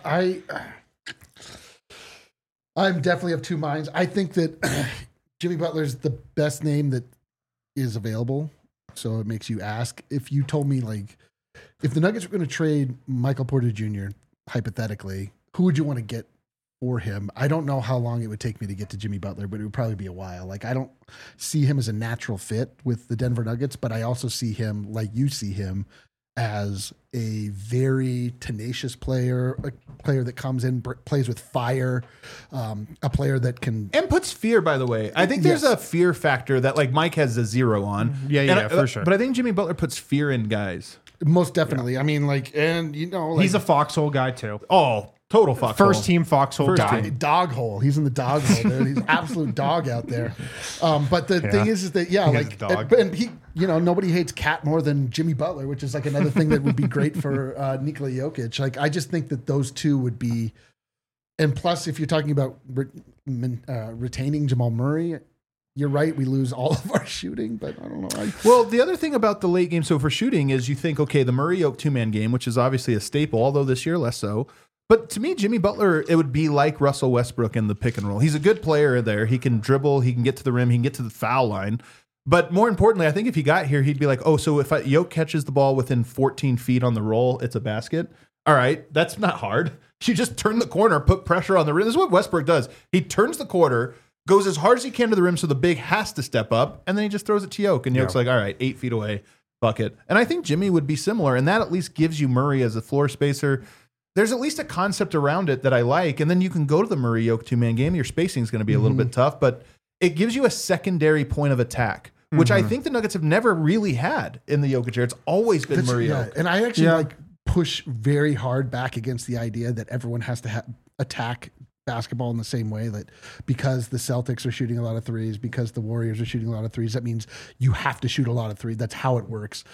I'm definitely of two minds. I think that Jimmy Butler's the best name that is available. So it makes you ask. If you told me, like, if the Nuggets were going to trade Michael Porter Jr., hypothetically, who would you want to get for him? I don't know how long it would take me to get to Jimmy Butler, but it would probably be a while. Like, I don't see him as a natural fit with the Denver Nuggets, but I also see him, like you see him, as a very tenacious player, a player that comes in, plays with fire, a player that can... And puts fear, by the way. I think there's a fear factor that, like, Mike has a 0 on. Yeah, for sure. But I think Jimmy Butler puts fear in guys. Most definitely. Yeah. I mean, like, and, you know... Like, he's a foxhole guy, too. Oh, total foxhole. First team foxhole guy. Dog hole. He's in the dog hole, dude. He's an absolute dog out there. But the thing is that, and he, you know, nobody hates Cat more than Jimmy Butler, which is like another thing that would be great for Nikola Jokic. Like, I just think that those two would be, and plus, if you're talking about retaining Jamal Murray, you're right. We lose all of our shooting, but I don't know. Well, the other thing about the late game, so for shooting, is you think, okay, the Murray-Yoke 2-man game, which is obviously a staple, although this year less so. But to me, Jimmy Butler, it would be like Russell Westbrook in the pick and roll. He's a good player there. He can dribble. He can get to the rim. He can get to the foul line. But more importantly, I think if he got here, he'd be like, oh, so if Yoke catches the ball within 14 feet on the roll, it's a basket. All right, that's not hard. You just turn the corner, put pressure on the rim. This is what Westbrook does. He turns the corner, goes as hard as he can to the rim so the big has to step up, and then he just throws it to Yoke. And Yoke's like, all right, 8 feet away, bucket. And I think Jimmy would be similar, and that at least gives you Murray as a floor spacer. There's at least a concept around it that I like, and then you can go to the Murray-Yoke 2-man game. Your spacing is going to be a little bit tough, but it gives you a secondary point of attack, which I think the Nuggets have never really had in the Jokic era. It's always been Murray-Yoke. Yeah. And I actually push very hard back against the idea that everyone has to attack basketball in the same way, that because the Celtics are shooting a lot of threes, because the Warriors are shooting a lot of threes, that means you have to shoot a lot of threes. That's how it works.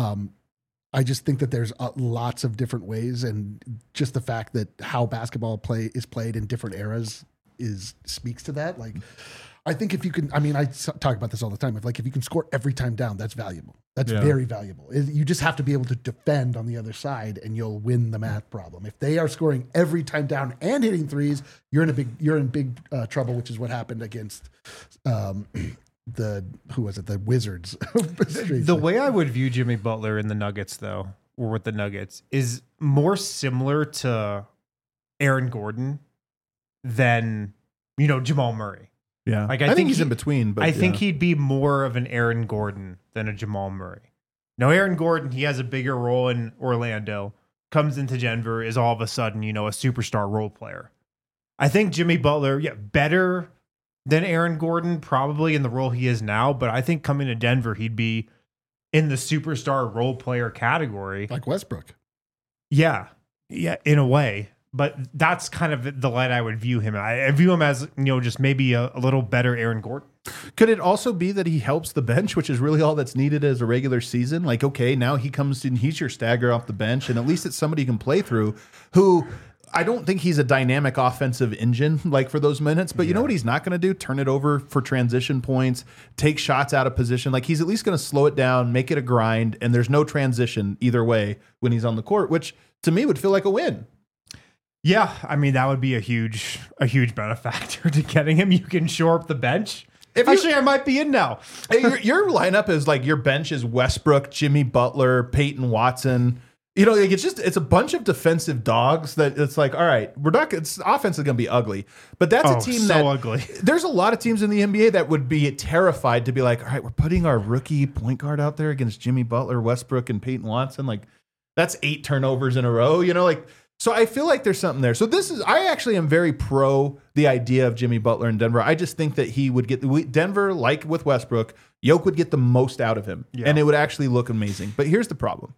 I just think that there's lots of different ways, and just the fact that how basketball is played in different eras speaks to that. Like, I think if you can, I mean, I talk about this all the time. If you can score every time down, that's valuable. That's very valuable. You just have to be able to defend on the other side, and you'll win the math problem. If they are scoring every time down and hitting threes, you're in big trouble, which is what happened against the Wizards. The way I would view Jimmy Butler in the Nuggets, though, or with the Nuggets, is more similar to Aaron Gordon than, you know, Jamal Murray. Yeah, like I think he's in between. But I think he'd be more of an Aaron Gordon than a Jamal Murray. Now, Aaron Gordon, he has a bigger role in Orlando, comes into Denver, is all of a sudden, you know, a superstar role player. I think Jimmy Butler, better than Aaron Gordon, probably in the role he is now. But I think coming to Denver, he'd be in the superstar role player category. Like Westbrook. Yeah, in a way. But that's kind of the light I would view him. I view him as, you know, just maybe a little better Aaron Gordon. Could it also be that he helps the bench, which is really all that's needed as a regular season? Like, okay, now he comes in, he's your stagger off the bench, and at least it's somebody you can play through who... I don't think he's a dynamic offensive engine like for those minutes, but you know what he's not going to do? Turn it over for transition points, take shots out of position. Like, he's at least going to slow it down, make it a grind, and there's no transition either way when he's on the court, which to me would feel like a win. Yeah, I mean, that would be a huge benefactor to getting him. You can shore up the bench. Actually, I might be in now. Your lineup is like, your bench is Westbrook, Jimmy Butler, Peyton Watson. You know, like, it's a bunch of defensive dogs that it's like, all right, offense is going to be ugly, but that's a team so ugly. There's a lot of teams in the NBA that would be terrified to be like, all right, we're putting our rookie point guard out there against Jimmy Butler, Westbrook, and Peyton Watson. Like, that's 8 turnovers in a row, you know, like, So I feel like there's something there. So I actually am very pro the idea of Jimmy Butler in Denver. I just think that he would get Denver, like with Westbrook, Jokic would get the most out of him, and it would actually look amazing. But here's the problem: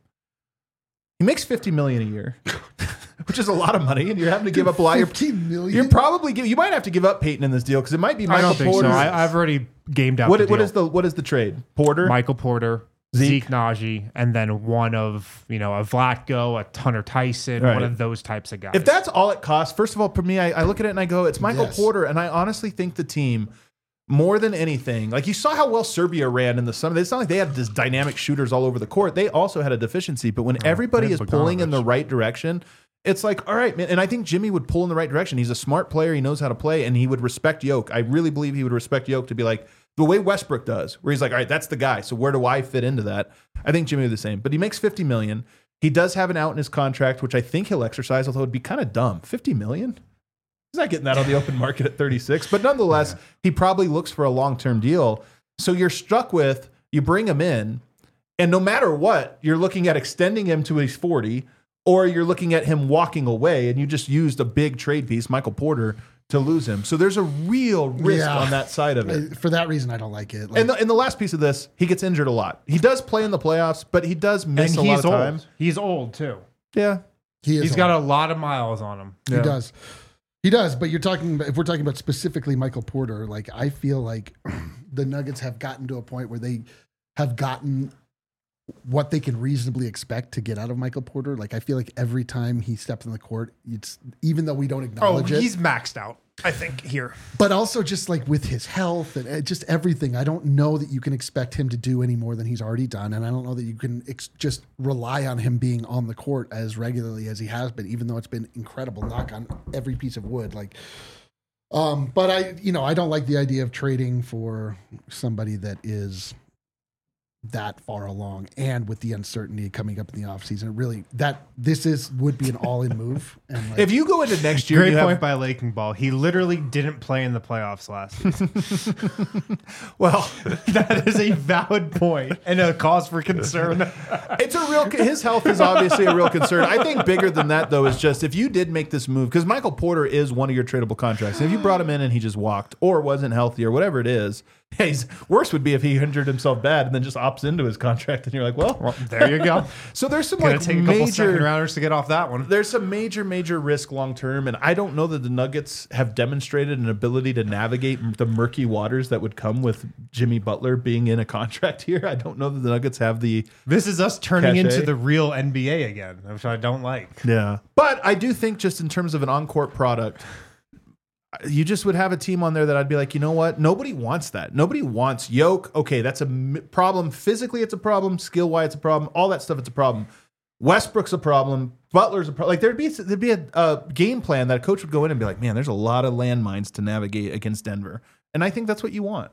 he makes $50 million a year, which is a lot of money, and you're having to give up a lot. $15 million? You're probably you might have to give up Peyton in this deal because it might be Michael I don't think Porter. so. I've already gamed out. What the deal. is the trade? Porter, Michael Porter, Zeke Naji, and then one of a Vlatko, a Hunter Tyson, Right. one of those types of guys. If that's all it costs, first of all, for me, I look at it and I go, it's Michael Yes. Porter, and I honestly think the team, more than anything, like you saw how well Serbia ran in the summer. It's not like they had this dynamic shooters all over the court. They also had a deficiency, but when everybody they is had pulling in Bogdanovic. the right direction, it's like, all right, man. And I think Jimmy would pull in the right direction. He's a smart player. He knows how to play, and he would respect Jokic. I really believe he would respect Jokic to be like the way Westbrook does, where he's like, all right, that's the guy. So where do I fit into that? I think Jimmy would do the same. But he makes $50 million. He does have an out in his contract, which I think he'll exercise, although it'd be kind of dumb. $50 million? He's not getting that on the open market at 36. But nonetheless, he probably looks for a long-term deal. So you're stuck with, you bring him in, and no matter what, you're looking at extending him to his 40, or you're looking at him walking away, and you just used a big trade piece, Michael Porter, to lose him. So there's a real risk on that side of it. For that reason, I don't like it. Like, And the last piece of this, he gets injured a lot. He does play in the playoffs, but he does miss and a he's lot of old. time. He's old too. Yeah. He's got a lot of miles on him. He does. He does, but if we're talking about specifically Michael Porter, like I feel like the Nuggets have gotten to a point where they have gotten what they can reasonably expect to get out of Michael Porter. Like I feel like every time he steps on the court, it's even though we don't acknowledge it. he's maxed out, I think, here. But also just like with his health and just everything, I don't know that you can expect him to do any more than he's already done. And I don't know that you can just rely on him being on the court as regularly as he has been, even though it's been incredible. Knock on every piece of wood. Like, but I don't like the idea of trading for somebody that is that far along, and with the uncertainty coming up in the offseason, really would be an all-in move. And like, If you go into next year, Great you point have, by Laking Ball. He literally didn't play in the playoffs last season. well, That is a valid point and a cause for concern. it's a real, his health is obviously a real concern. I think bigger than that, though, is just if you did make this move, because Michael Porter is one of your tradable contracts. And if you brought him in and he just walked or wasn't healthy or whatever it is, worse would be if he injured himself bad and then just opts into his contract. And you're like, well, There you go. so there's some Gonna like take a couple second major, rounders to get off that one. there's some major risk long term. And I don't know that the Nuggets have demonstrated an ability to navigate the murky waters that would come with Jimmy Butler being in a contract here. I don't know that the Nuggets have the, This is us turning Cachet. into the real NBA again, which I don't like. yeah. But I do think just in terms of an on-court product, you just would have a team on there that I'd be like, you know what? Nobody wants that. Nobody wants Jokic. Okay, that's a problem. Physically, it's a problem. Skill-wise, it's a problem. All that stuff, it's a problem. Westbrook's a problem. Butler's a problem. Like there'd be a game plan that a coach would go in and be like, man, there's a lot of landmines to navigate against Denver, and I think that's what you want.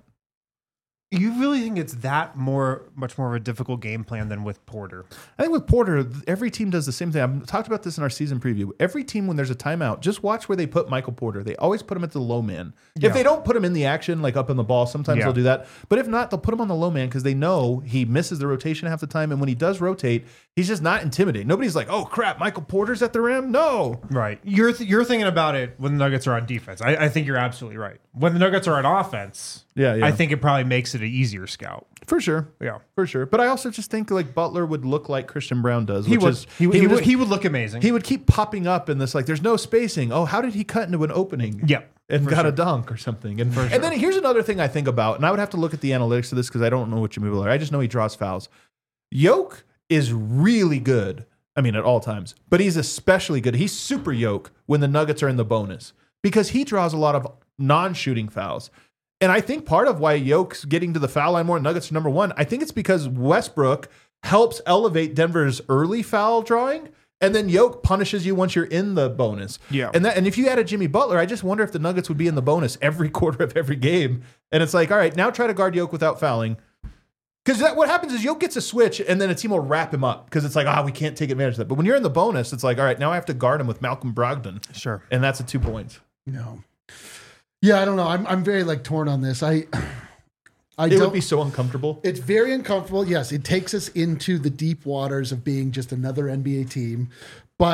You really think it's much more of a difficult game plan than with Porter? I think with Porter, every team does the same thing. I've talked about this in our season preview. Every team, when there's a timeout, just watch where they put Michael Porter. They always put him at the low man. Yeah. If they don't put him in the action, like up in the ball, sometimes Yeah. they'll do that. But if not, they'll put him on the low man because they know he misses the rotation half the time. And when he does rotate, he's just not intimidating. Nobody's like, oh, crap, Michael Porter's at the rim? No. Right. You're thinking about it when the Nuggets are on defense. I think you're absolutely right. When the Nuggets are on offense, Yeah. I think it probably makes it an easier scout. For sure. Yeah. For sure. But I also just think like Butler would look like Christian Brown does. He which would. is, He would look amazing. he would keep popping up in this, like, there's no spacing. Oh, how did he cut into an opening? Yep. And For got a sure. dunk or something. And then here's another thing I think about, and I would have to look at the analytics of this because I don't know what Jimmy Butler. I just know he draws fouls. Jokic is really good. I mean, at all times, but he's especially good. He's super Jokic when the Nuggets are in the bonus because he draws a lot of non-shooting fouls. And I think part of why Jokic's getting to the foul line more, Nuggets are number one, I think it's because Westbrook helps elevate Denver's early foul drawing. And then Jokic punishes you once you're in the bonus. Yeah. And if you added Jimmy Butler, I just wonder if the Nuggets would be in the bonus every quarter of every game. And it's like, all right, now try to guard Jokic without fouling. Because what happens is Jokic gets a switch and then a team will wrap him up because it's like, we can't take advantage of that. But when you're in the bonus, it's like, all right, now I have to guard him with Malcolm Brogdon. Sure. And that's a 2 points. no. Yeah, I don't know. I'm very like torn on this. I It don't. would be so uncomfortable. It's very uncomfortable. Yes, it takes us into the deep waters of being just another NBA team. But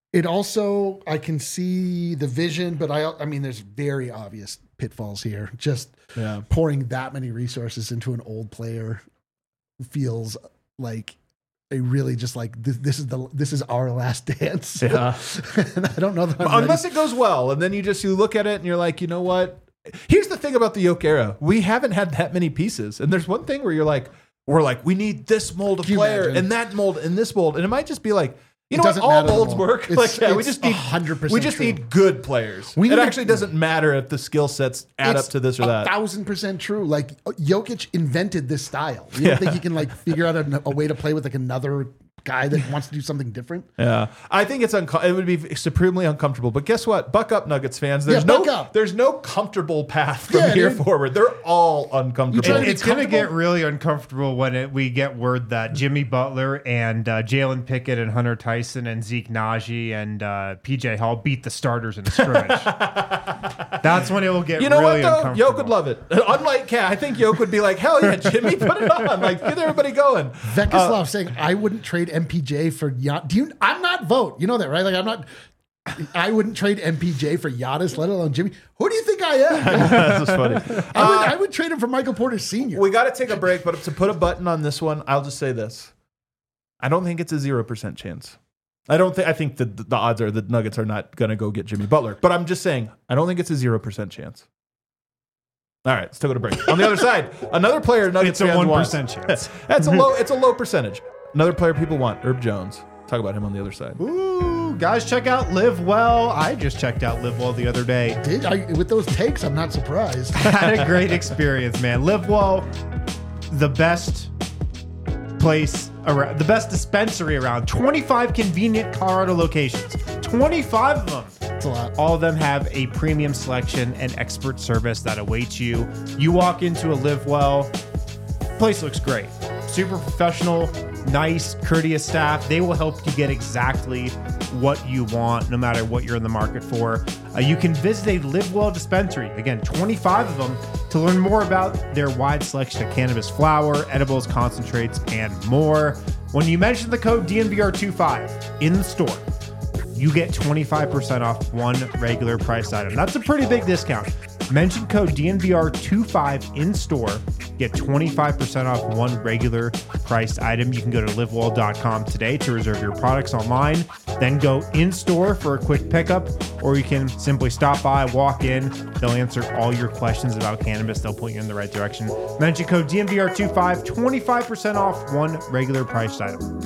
It also, I can see the vision, but I mean, there's very obvious pitfalls here. Just pouring that many resources into an old player feels like a really just like this is our last dance. Yeah, and I don't know that unless it goes well, and then you look at it and you're like, you know what? Here's the thing about the Yoke era: we haven't had that many pieces, and there's one thing where we're like, we need this mold of player and that mold and this mold, and it might just be like. You know what? All molds work. We just need 100%. We just need good players. It actually doesn't matter if the skill sets add up to this or that. 1,000% true. Like Jokic invented this style. You don't think he can like figure out a way to play with like another guy that wants to do something different? Yeah, I think it would be supremely uncomfortable. But guess what? Buck up, Nuggets fans. There's no comfortable path from here forward. They're all uncomfortable. It's going to get really uncomfortable when we get word that Jimmy Butler and Jalen Pickett and Hunter Tyson and Zeke Naji and PJ Hall beat the starters in a scrimmage. That's when it will get really uncomfortable. Yoke would love it. Unlike Cat, I think Yoke would be like, hell yeah, Jimmy, put it on. Like, get everybody going. Vekislav saying, I wouldn't trade MPJ for Giannis. I'm not Vote. You know that, right? Like, I wouldn't trade MPJ for Giannis, let alone Jimmy. Who do you think I am? That's just funny. I would trade him for Michael Porter Sr. We got to take a break, but to put a button on this one, I'll just say this. I don't think it's a 0% chance. I think that the odds are the Nuggets are not going to go get Jimmy Butler. But I'm just saying, I don't think it's a 0% chance. All right, let's take a break. On the other side, another player Nuggets it's a 1% wants. chance. It's a low percentage. Another player people want, Herb Jones. Talk about him on the other side. Ooh, guys, check out Live Well. I just checked out Live Well the other day. With those takes, I'm not surprised. Had a great experience, man. Live Well, the best place around, the best dispensary around. 25 convenient Colorado locations. 25 of them. That's a lot. All of them have a premium selection and expert service that awaits you. You walk into a Live Well, place looks great. Super professional, nice, courteous staff. They will help you get exactly what you want, no matter what you're in the market for. You can visit a Live Well dispensary, again, 25 of them, to learn more about their wide selection of cannabis flower, edibles, concentrates, and more. When you mention the code DNVR25 in the store, you get 25% off one regular price item. That's a pretty big discount. Mention code DNVR25 in store. Get 25% off one regular priced item. You can go to livewell.com today to reserve your products online. Then go in store for a quick pickup, or you can simply stop by, walk in. They'll answer all your questions about cannabis. They'll point you in the right direction. Mention code DNVR25, 25% off one regular priced item.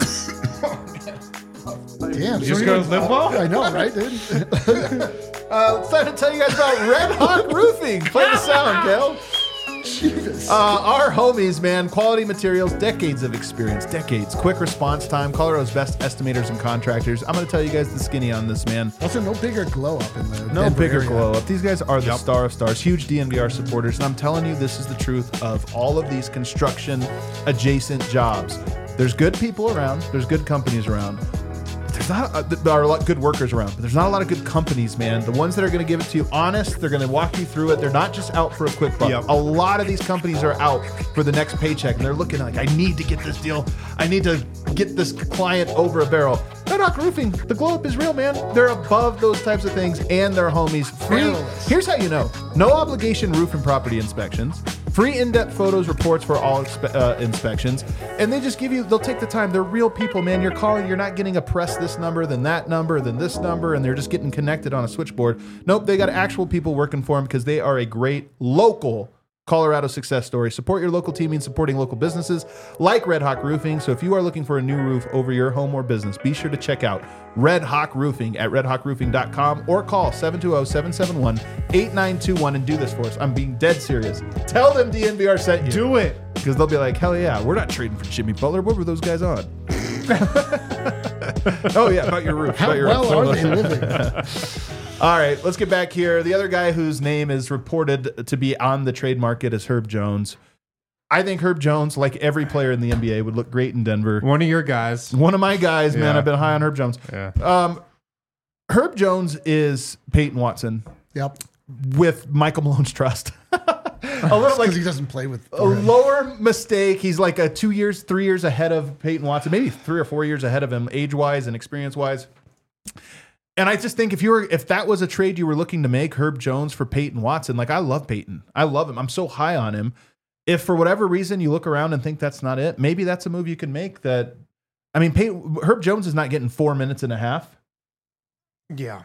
Damn, you just go to Live Well? I know, right, dude? It's time to tell you guys about Red Hawk Roofing. Play the sound, Kel. Jesus. Our homies, man, quality materials, decades of experience, quick response time, Colorado's best estimators and contractors. I'm going to tell you guys the skinny on this, man. Also, no bigger glow up in the No Denver bigger area. glow up. These guys are the star of stars, huge DNVR supporters, and I'm telling you, this is the truth of all of these construction adjacent jobs. There's good people around. There's good companies around. There are a lot of good workers around, but there's not a lot of good companies, man. The ones that are going to give it to you honest, they're going to walk you through it. They're not just out for a quick buck. Yep. A lot of these companies are out for the next paycheck, and they're looking like, I need to get this deal. I need to get this client over a barrel. Red Hawk Roofing, the glow up is real, man. They're above those types of things, and they're homies. Free. Here's how you know. No obligation roof and property inspections. Free in-depth photos, reports for all inspections. And they just they'll take the time. They're real people, man. You're calling, you're not getting a press this number, then that number, then this number, and they're just getting connected on a switchboard. Nope, they got actual people working for them because they are a great local Colorado success story. Support your local team means supporting local businesses like Red Hawk Roofing. So if you are looking for a new roof over your home or business, be sure to check out Red Hawk Roofing at redhawkroofing.com or call 720-771-8921 and do this for us. I'm being dead serious. Tell them DNVR sent you. Do it. Because they'll be like, hell yeah, we're not trading for Jimmy Butler. What were those guys on? Oh yeah, about your roof. How about your well roof. are they living? All right, let's get back here. The other guy whose name is reported to be on the trade market is Herb Jones. I think Herb Jones, like every player in the NBA, would look great in Denver. One of your guys. One of my guys, man. Yeah. I've been high on Herb Jones. Yeah. Herb Jones is Peyton Watson Yep. with Michael Malone's trust. A little Because he doesn't play with a lower mistake. He's like 3 years ahead of Peyton Watson, maybe 3 or 4 years ahead of him, age-wise and experience-wise. And I just think if that was a trade you were looking to make, Herb Jones for Peyton Watson, like I love Peyton. I love him. I'm so high on him. If for whatever reason you look around and think that's not it, maybe that's a move you can make. Herb Jones is not getting 4 minutes and a half. Yeah.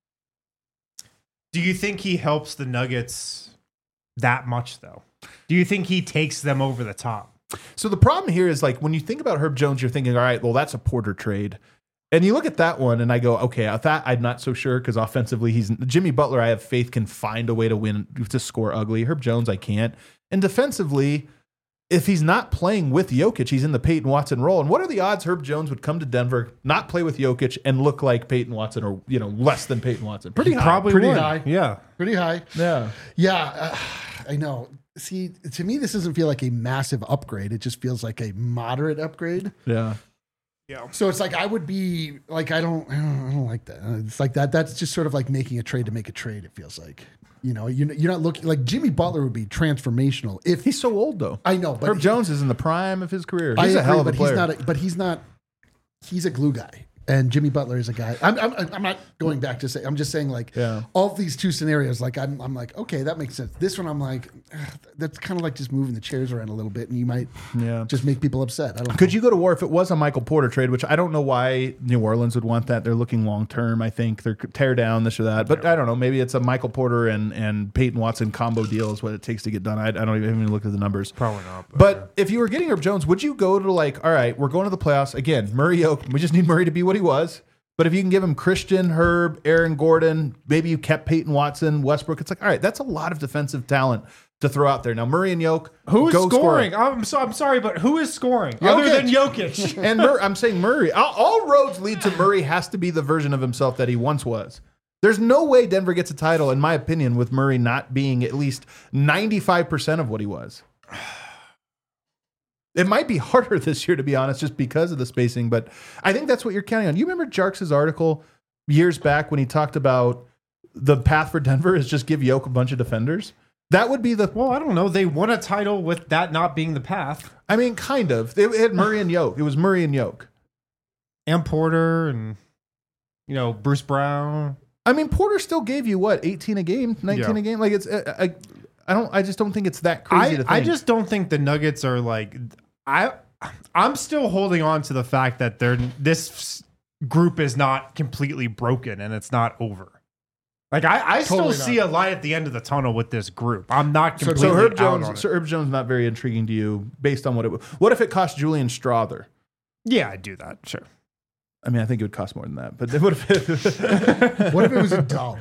Do you think he helps the Nuggets that much, though? Do you think he takes them over the top? So the problem here is like when you think about Herb Jones, you're thinking, all right, well, that's a Porter trade. And you look at that one and I go, okay, that I'm not so sure because offensively, Jimmy Butler, I have faith can find a way to win, to score ugly. Herb Jones, I can't. And defensively, if he's not playing with Jokic, he's in the Peyton Watson role. And what are the odds Herb Jones would come to Denver, not play with Jokic, and look like Peyton Watson or, less than Peyton Watson? Pretty high. Probably Pretty would. high. Yeah. Pretty high. Yeah. Yeah, I know. See, to me, this doesn't feel like a massive upgrade. It just feels like a moderate upgrade. Yeah. Yeah. So it's like I would be like I don't like that. It's like that. That's just sort of like making a trade to make a trade. It feels like you're not looking like Jimmy Butler would be transformational if He's so old though. I know, but Herb Jones is in the prime of his career. I He's a agree, hell of a but player. He's a glue guy. And Jimmy Butler is a guy. I'm not going back to say. I'm just saying like all of these two scenarios. Like I'm like okay, that makes sense. This one I'm like that's kind of like just moving the chairs around a little bit, and you might just make people upset. I don't. Could you go to war if it was a Michael Porter trade? Which I don't know why New Orleans would want that. They're looking long term. I think they're tear down this or that. But I don't know. Maybe it's a Michael Porter and Peyton Watson combo deal is what it takes to get done. I don't even look at the numbers. Probably not. But if you were getting Herb Jones, would you go to like, all right, we're going to the playoffs again? Murray Yoke. We just need Murray to be what he was. But if you can give him Christian, Herb, Aaron Gordon, maybe you kept Peyton Watson, Westbrook, it's like, all right, that's a lot of defensive talent to throw out there. Now, Murray and Yoke, who's go scoring? Score. I'm sorry, but who is scoring other than Jokic? And I'm saying Murray. All roads lead to Murray has to be the version of himself that he once was. There's no way Denver gets a title, in my opinion, with Murray not being at least 95% of what he was. It might be harder this year, to be honest, just because of the spacing, but I think that's what you're counting on. You remember Jarks' article years back when he talked about the path for Denver is just give Yoke a bunch of defenders? That would be Well, I don't know. They won a title with that not being the path. I mean, kind of. It had Murray and Yoke. It was Murray and Yoke. And Porter and, Bruce Brown. I mean, Porter still gave you, 18 a game, 19 a game? Like, it's... I just don't think it's that crazy to think. I just don't think the Nuggets are like... I'm still holding on to the fact that this group is not completely broken and it's not over. Like I Totally still see a light at the end of the tunnel with this group. I'm not completely So Herb out on Jones, it. Herb Jones not very intriguing to you based on what it would. What if it cost Julian Strother? Yeah, I'd do that. Sure. I mean, I think it would cost more than that. But what if it, What if it was $1?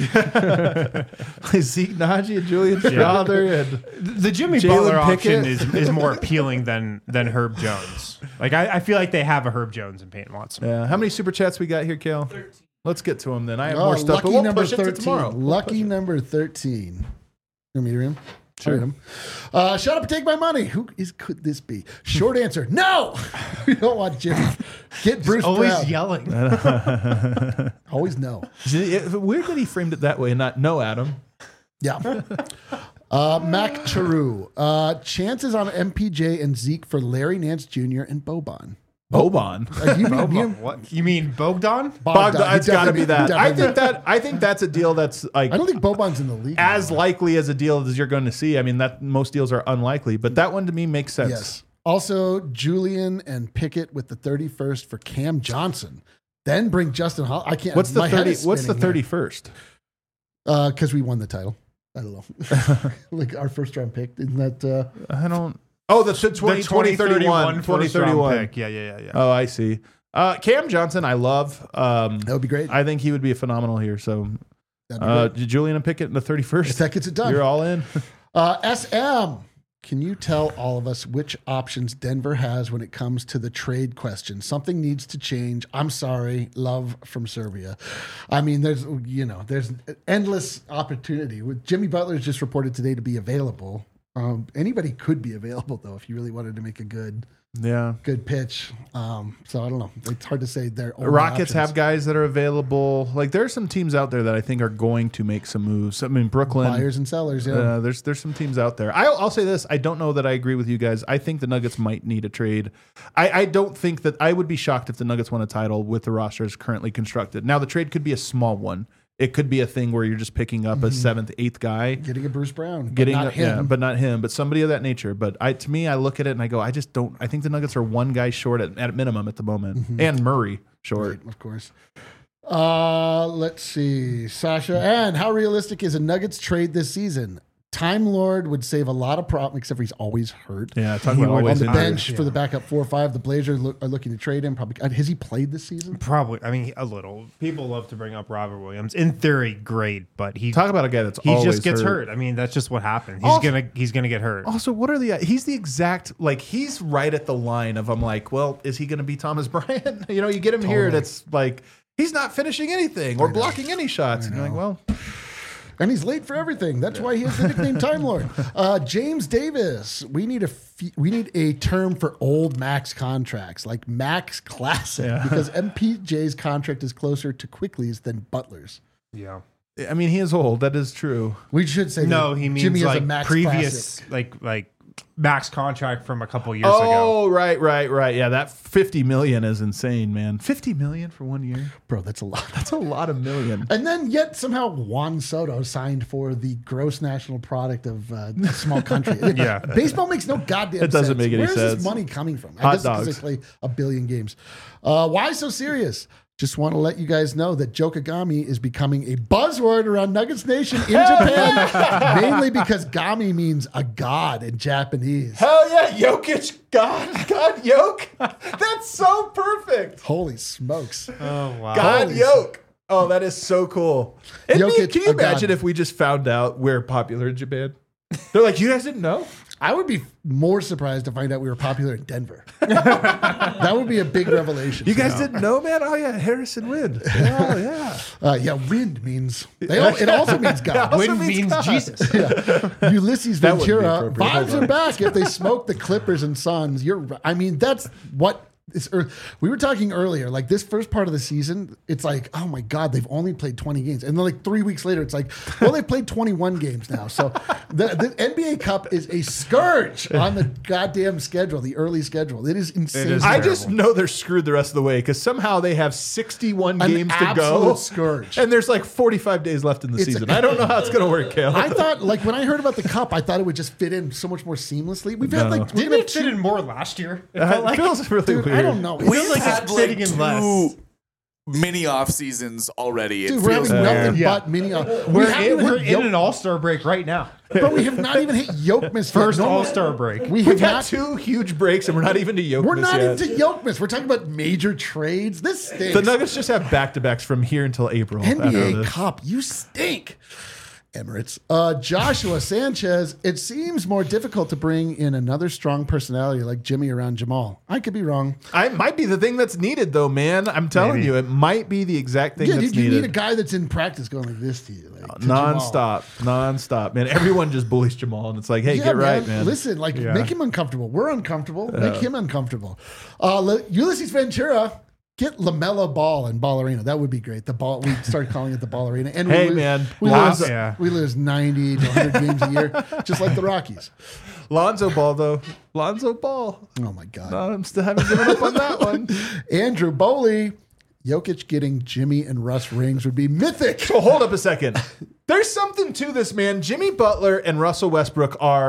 Zeke Naji and Julian Strother and The Jimmy Jalen Butler option Pickett? is more appealing than Herb Jones. Like I feel like they have a Herb Jones and Peyton Watson. yeah. How many super chats we got here, Kale? 13. Let's get to them then. I have Oh, more stuff, but lucky we'll number push it to 13. tomorrow. Lucky number 13. You want me to read him? Sure. I'll read him. Shut up and take my money. Could this be? Short answer, no. We don't want Jimmy. Get Bruce Always Brown. yelling. Always no. Weird that he framed it that way and not no, Adam. Yeah. Mac Charu. Chances on MPJ and Zeke for Larry Nance Jr. and Boban. Boban. What? You mean Bogdan? Bogdan. It's got to be that. Definitely. I think that's a deal that's like I don't think Boban's in the league. as anymore. likely as a deal as you're going to see. I mean, that most deals are unlikely, but that one to me makes sense. Yes. Also, Julian and Pickett with the 31st for Cam Johnson. Then bring Justin Hall. I can't. What's the my head 30? is What's the spinning here. 31st? Because we won the title. I don't know. Like our first round pick. Isn't that? I don't. Oh, the 2031. 2031. pick. Yeah. Oh, I see. Cam Johnson, I love. That would be great. I think he would be phenomenal here. So, That'd be great. Julian and Pickett in the 31st. If that gets it done. You're all in. SM. Can you tell all of us which options Denver has when it comes to the trade question? Something needs to change. I'm sorry. Love from Serbia. I mean, there's endless opportunity. With Jimmy Butler is just reported today to be available. Anybody could be available though if you really wanted to make a good pitch. So I don't know. It's hard to say. Rockets have guys that are available. Like there are some teams out there that I think are going to make some moves. I mean, Brooklyn buyers and sellers. Yeah, there's some teams out there. I'll say this. I don't know that I agree with you guys. I think the Nuggets might need a trade. I don't think that I would be shocked if the Nuggets won a title with the rosters currently constructed. Now the trade could be a small one. It could be a thing where you're just picking up a 7th, 8th guy, getting a Bruce Brown, but not him, but somebody of that nature. But to me, I look at it and I go, I just don't. I think the Nuggets are one guy short at minimum at the moment, and Murray short, right, of course. Let's see, Sasha, and how realistic is a Nuggets trade this season? Time Lord would save a lot of problems, except for he's always hurt. Yeah, talking about always on the bench for the backup 4 or 5. The Blazers are looking to trade him. Probably has he played this season? Probably. I mean, a little. People love to bring up Robert Williams. In theory, great, but talk about a guy that's always just gets hurt. I mean, that's just what happened. He's gonna get hurt. Also, what are he's the exact he's right at the line of I'm like, well, is he gonna be Thomas Bryant? You get him here, that's like he's not finishing anything or blocking any shots. And you're like, well. And he's late for everything. That's why he has the nickname Time Lord. James Davis, we need a term for old max contracts, like Max Classic, because MPJ's contract is closer to Quickly's than Butler's. Yeah. I mean, he is old. That is true. We should say no. He means Jimmy like has a Max previous, Classic. like max contract from a couple years ago. Oh, right. Yeah, that $50 million is insane, man. $50 million for 1 year, bro. That's a lot. That's a lot of million. And then yet somehow Juan Soto signed for the gross national product of a small country. Yeah, baseball makes no goddamn sense. It doesn't make any sense. sense. Where's this money coming from? Hot I guess dogs. because they play a billion games. Why so serious? Just want to let you guys know that Jokagami is becoming a buzzword around Nuggets Nation in Japan, mainly because Gami means a god in Japanese. Hell yeah, Jokic, God Yoke. That's so perfect. Holy smokes. Oh, wow. God Yoke. Oh, that is so cool. Jokic, Can you imagine god. if we just found out we're popular in Japan? They're like, you guys didn't know? I would be more surprised to find out we were popular in Denver. That would be a big revelation. You guys didn't know, man? Oh, yeah, Harrison Wind. Oh, yeah. Wind means, it also means God. Also Wind means God. Jesus. Ulysses That wouldn't be Ventura, appropriate. vibes Hold are back if they smoke the Clippers and Suns. That's what is. We were talking earlier, like this first part of the season, it's like, oh my God, they've only played 20 games. And then like 3 weeks later, it's like, well, they've played 21 games now. So the NBA Cup is a scourge on the goddamn schedule, the early schedule. It is insane. It is I terrible. just know they're screwed the rest of the way because somehow they have 61 An games to go. absolute scourge. And there's like 45 days left in the season. I don't know how it's going to work, Caleb. I thought, like, when I heard about the Cup, I thought it would just fit in so much more seamlessly. We've had like, Didn't it fit in more last year? It felt like it feels really dude, weird. I don't know. It We've feels like had it's like fitting in 2 less. mini off seasons already. dude, It we're feels having weird. nothing Yeah. but mini. We're in an all-star break right now. But we have not even hit Yokemas. First yet. all-star break. We We've have had not. 2 huge breaks and we're not even to Jokic We're not yet. into Yokemas. We're talking about major trades. This stinks. The Nuggets just have back-to-backs from here until April. after NBA this. Cup, you stink. Emirates. Joshua Sanchez, it seems more difficult to bring in another strong personality like Jimmy around Jamal. I could be wrong. I might be the thing that's needed, though, man. I'm telling Maybe. you, it might be the exact thing Yeah, that's you need a needed. guy that's in practice going like this to you. Like, to Jamal. Non-stop, man. Everyone just bullies Jamal, and it's like, hey, Yeah, get right, man. Listen, like, Yeah. make him uncomfortable. We're uncomfortable. Make him uncomfortable. Ulysses Ventura, get LaMelo Ball in Ball Arena. That would be great. The ball. We started calling it the Ball Arena. And Hey, man. we Lonzo- lose, Yeah. we lose 90 to 100 games a year, just like the Rockies. Lonzo Ball, though. Lonzo Ball. Oh my God. No, I'm still haven't given up on that one. Andrew Bowley, Jokic getting Jimmy and Russ rings would be mythic. So hold up a second. There's something to this, man. Jimmy Butler and Russell Westbrook are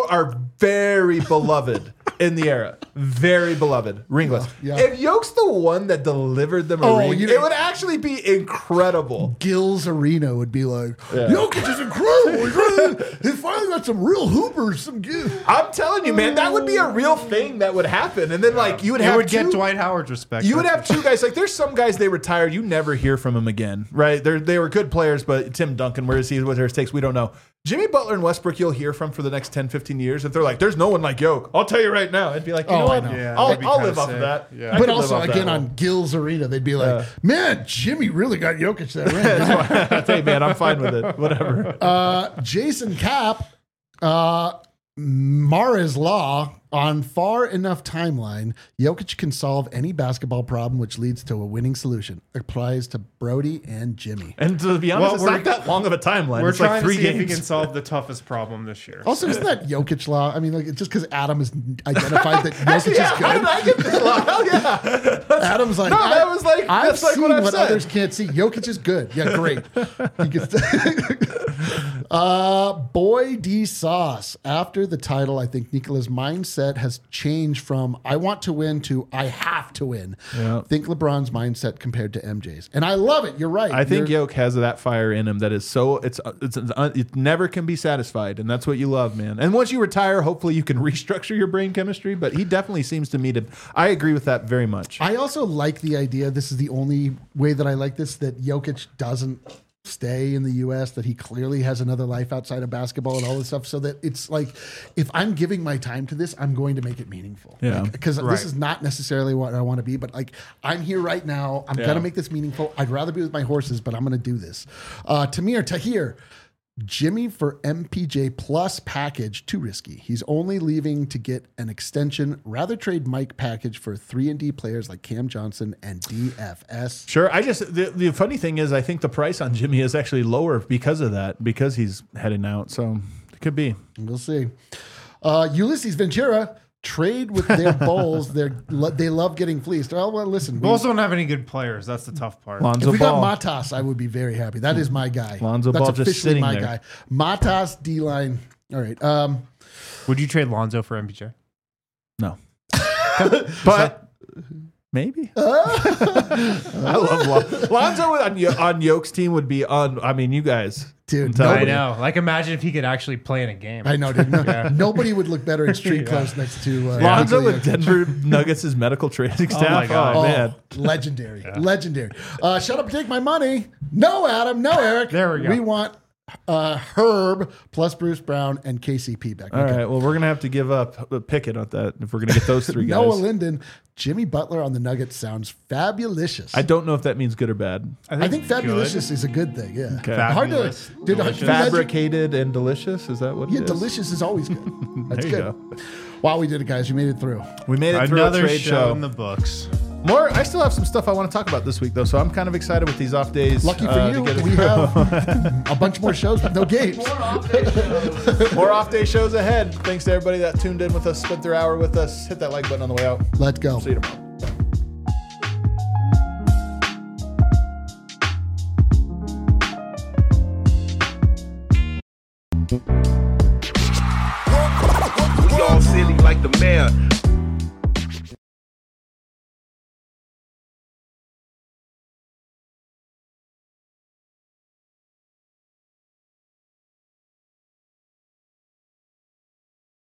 very beloved in the era. Very beloved. Ringless. Yeah. If Yoke's the one that delivered them a ring, you- it would actually be incredible. Gills Arena would be like, Jokic is incredible. He finally got some real hoopers. I'm telling you, man, that would be a real thing that would happen. And then, like, you would It have would get two- Dwight Howard's respect. You would have 2 guys. Like, there's some guys they retired. You never hear from them again, right? They were good players, but Tim Duncan, where is he? What are his takes? We don't know. Jimmy Butler and Westbrook, you'll hear from for the next 10, 15 years. If they're like, there's no one like Yoke, I'll tell you right now. I'd be like, you know I what? know. Yeah, I'll that'd be live kinda off of sick. that. Yeah. I But could live also, off that again, one. on Gills Arena, they'd be like, man, Jimmy really got Jokic that ring. Hey, man, I'm fine with it. Whatever. Jason Cap, Mara's Law, on far enough timeline, Jokic can solve any basketball problem, which leads to a winning solution. Applies to Brody and Jimmy. And to be honest, Well, it's we're- not that long of a timeline. We're It's trying like 3 to see if he games. can solve the toughest problem this year. Also, isn't that Jokic Law? I mean, like, just because Adam has identified that Jokic Yeah, is how did good, I get this long? Hell yeah. Adam's like, No, that was like- I've that's like seen what I've what said. others can't see. Jokic is good. Yeah, great. He gets Boy D Sauce. After the title, I think Nikola's mindset has changed from I want to win to I have to win. Yeah. Think LeBron's mindset compared to MJ's. And I love it. You're right. I think You're- Yoke has that fire in him that is so it never can be satisfied, and that's what you love, man. And once you retire, hopefully you can restructure your brain chemistry. But he definitely seems to me to. I agree with that very much. I also like the idea. This is the only way that I like this, that Jokic doesn't stay in the U.S., that he clearly has another life outside of basketball and all this stuff, so that it's like, if I'm giving my time to this, I'm going to make it meaningful. Yeah. Because Right. this is not necessarily what I want to be, but like, I'm here right now. I'm Yeah. going to make this meaningful. I'd rather be with my horses, but I'm going to do this. Tamir Tahir. Jimmy for MPJ plus package, too risky. He's only leaving to get an extension. Rather trade Mike package for 3-and-D players like Cam Johnson and DFS. Sure. The funny thing is, I think the price on Jimmy is actually lower because of that, because he's heading out. So it could be. We'll see. Ulysses Ventura, trade with their Bulls. They love getting fleeced. Well, listen. Bulls don't have any good players. That's the tough part. Lonzo If we Ball. got Matas, I would be very happy. That is my guy. Lonzo That's Ball just officially sitting my there. guy. Matas, D-line. All right. Would you trade Lonzo for MPJ? No. But maybe. I love Lonzo on Yoke's team would be on. I mean, you guys. Dude, I I nobody, know. Like, imagine if he could actually play in a game. I know, dude. Nobody would look better in street clothes next to Lonzo Nikola with Jokic. Denver Nuggets' medical training staff. my God. Oh, man. Legendary. Legendary. Shut up and take my money. No, Adam. No, Eric. There we go. We want Herb plus Bruce Brown and KCP back. All right. Well, we're going to have to give up Pickett on that if we're going to get those three guys. Noah Linden, Jimmy Butler on the Nuggets sounds fabulous. I don't know if that means good or bad. I think fabulous is a good thing. Yeah. Okay. Hard to. Fabulous. Dude, Delicious. can you imagine- Fabricated and delicious. Is that what it Yeah, is? delicious is always good. That's There you good. Wow, we did it, guys. You made it through. We made it through Another a trade show show. in the books. More. I still have some stuff I want to talk about this week, though, so I'm kind of excited with these off days. Lucky for to you, get it we through. have a bunch more shows with no games. More off day shows ahead. Thanks to everybody that tuned in with us, spent their hour with us. Hit that like button on the way out. Let's go. See you tomorrow. We all silly like the mayor.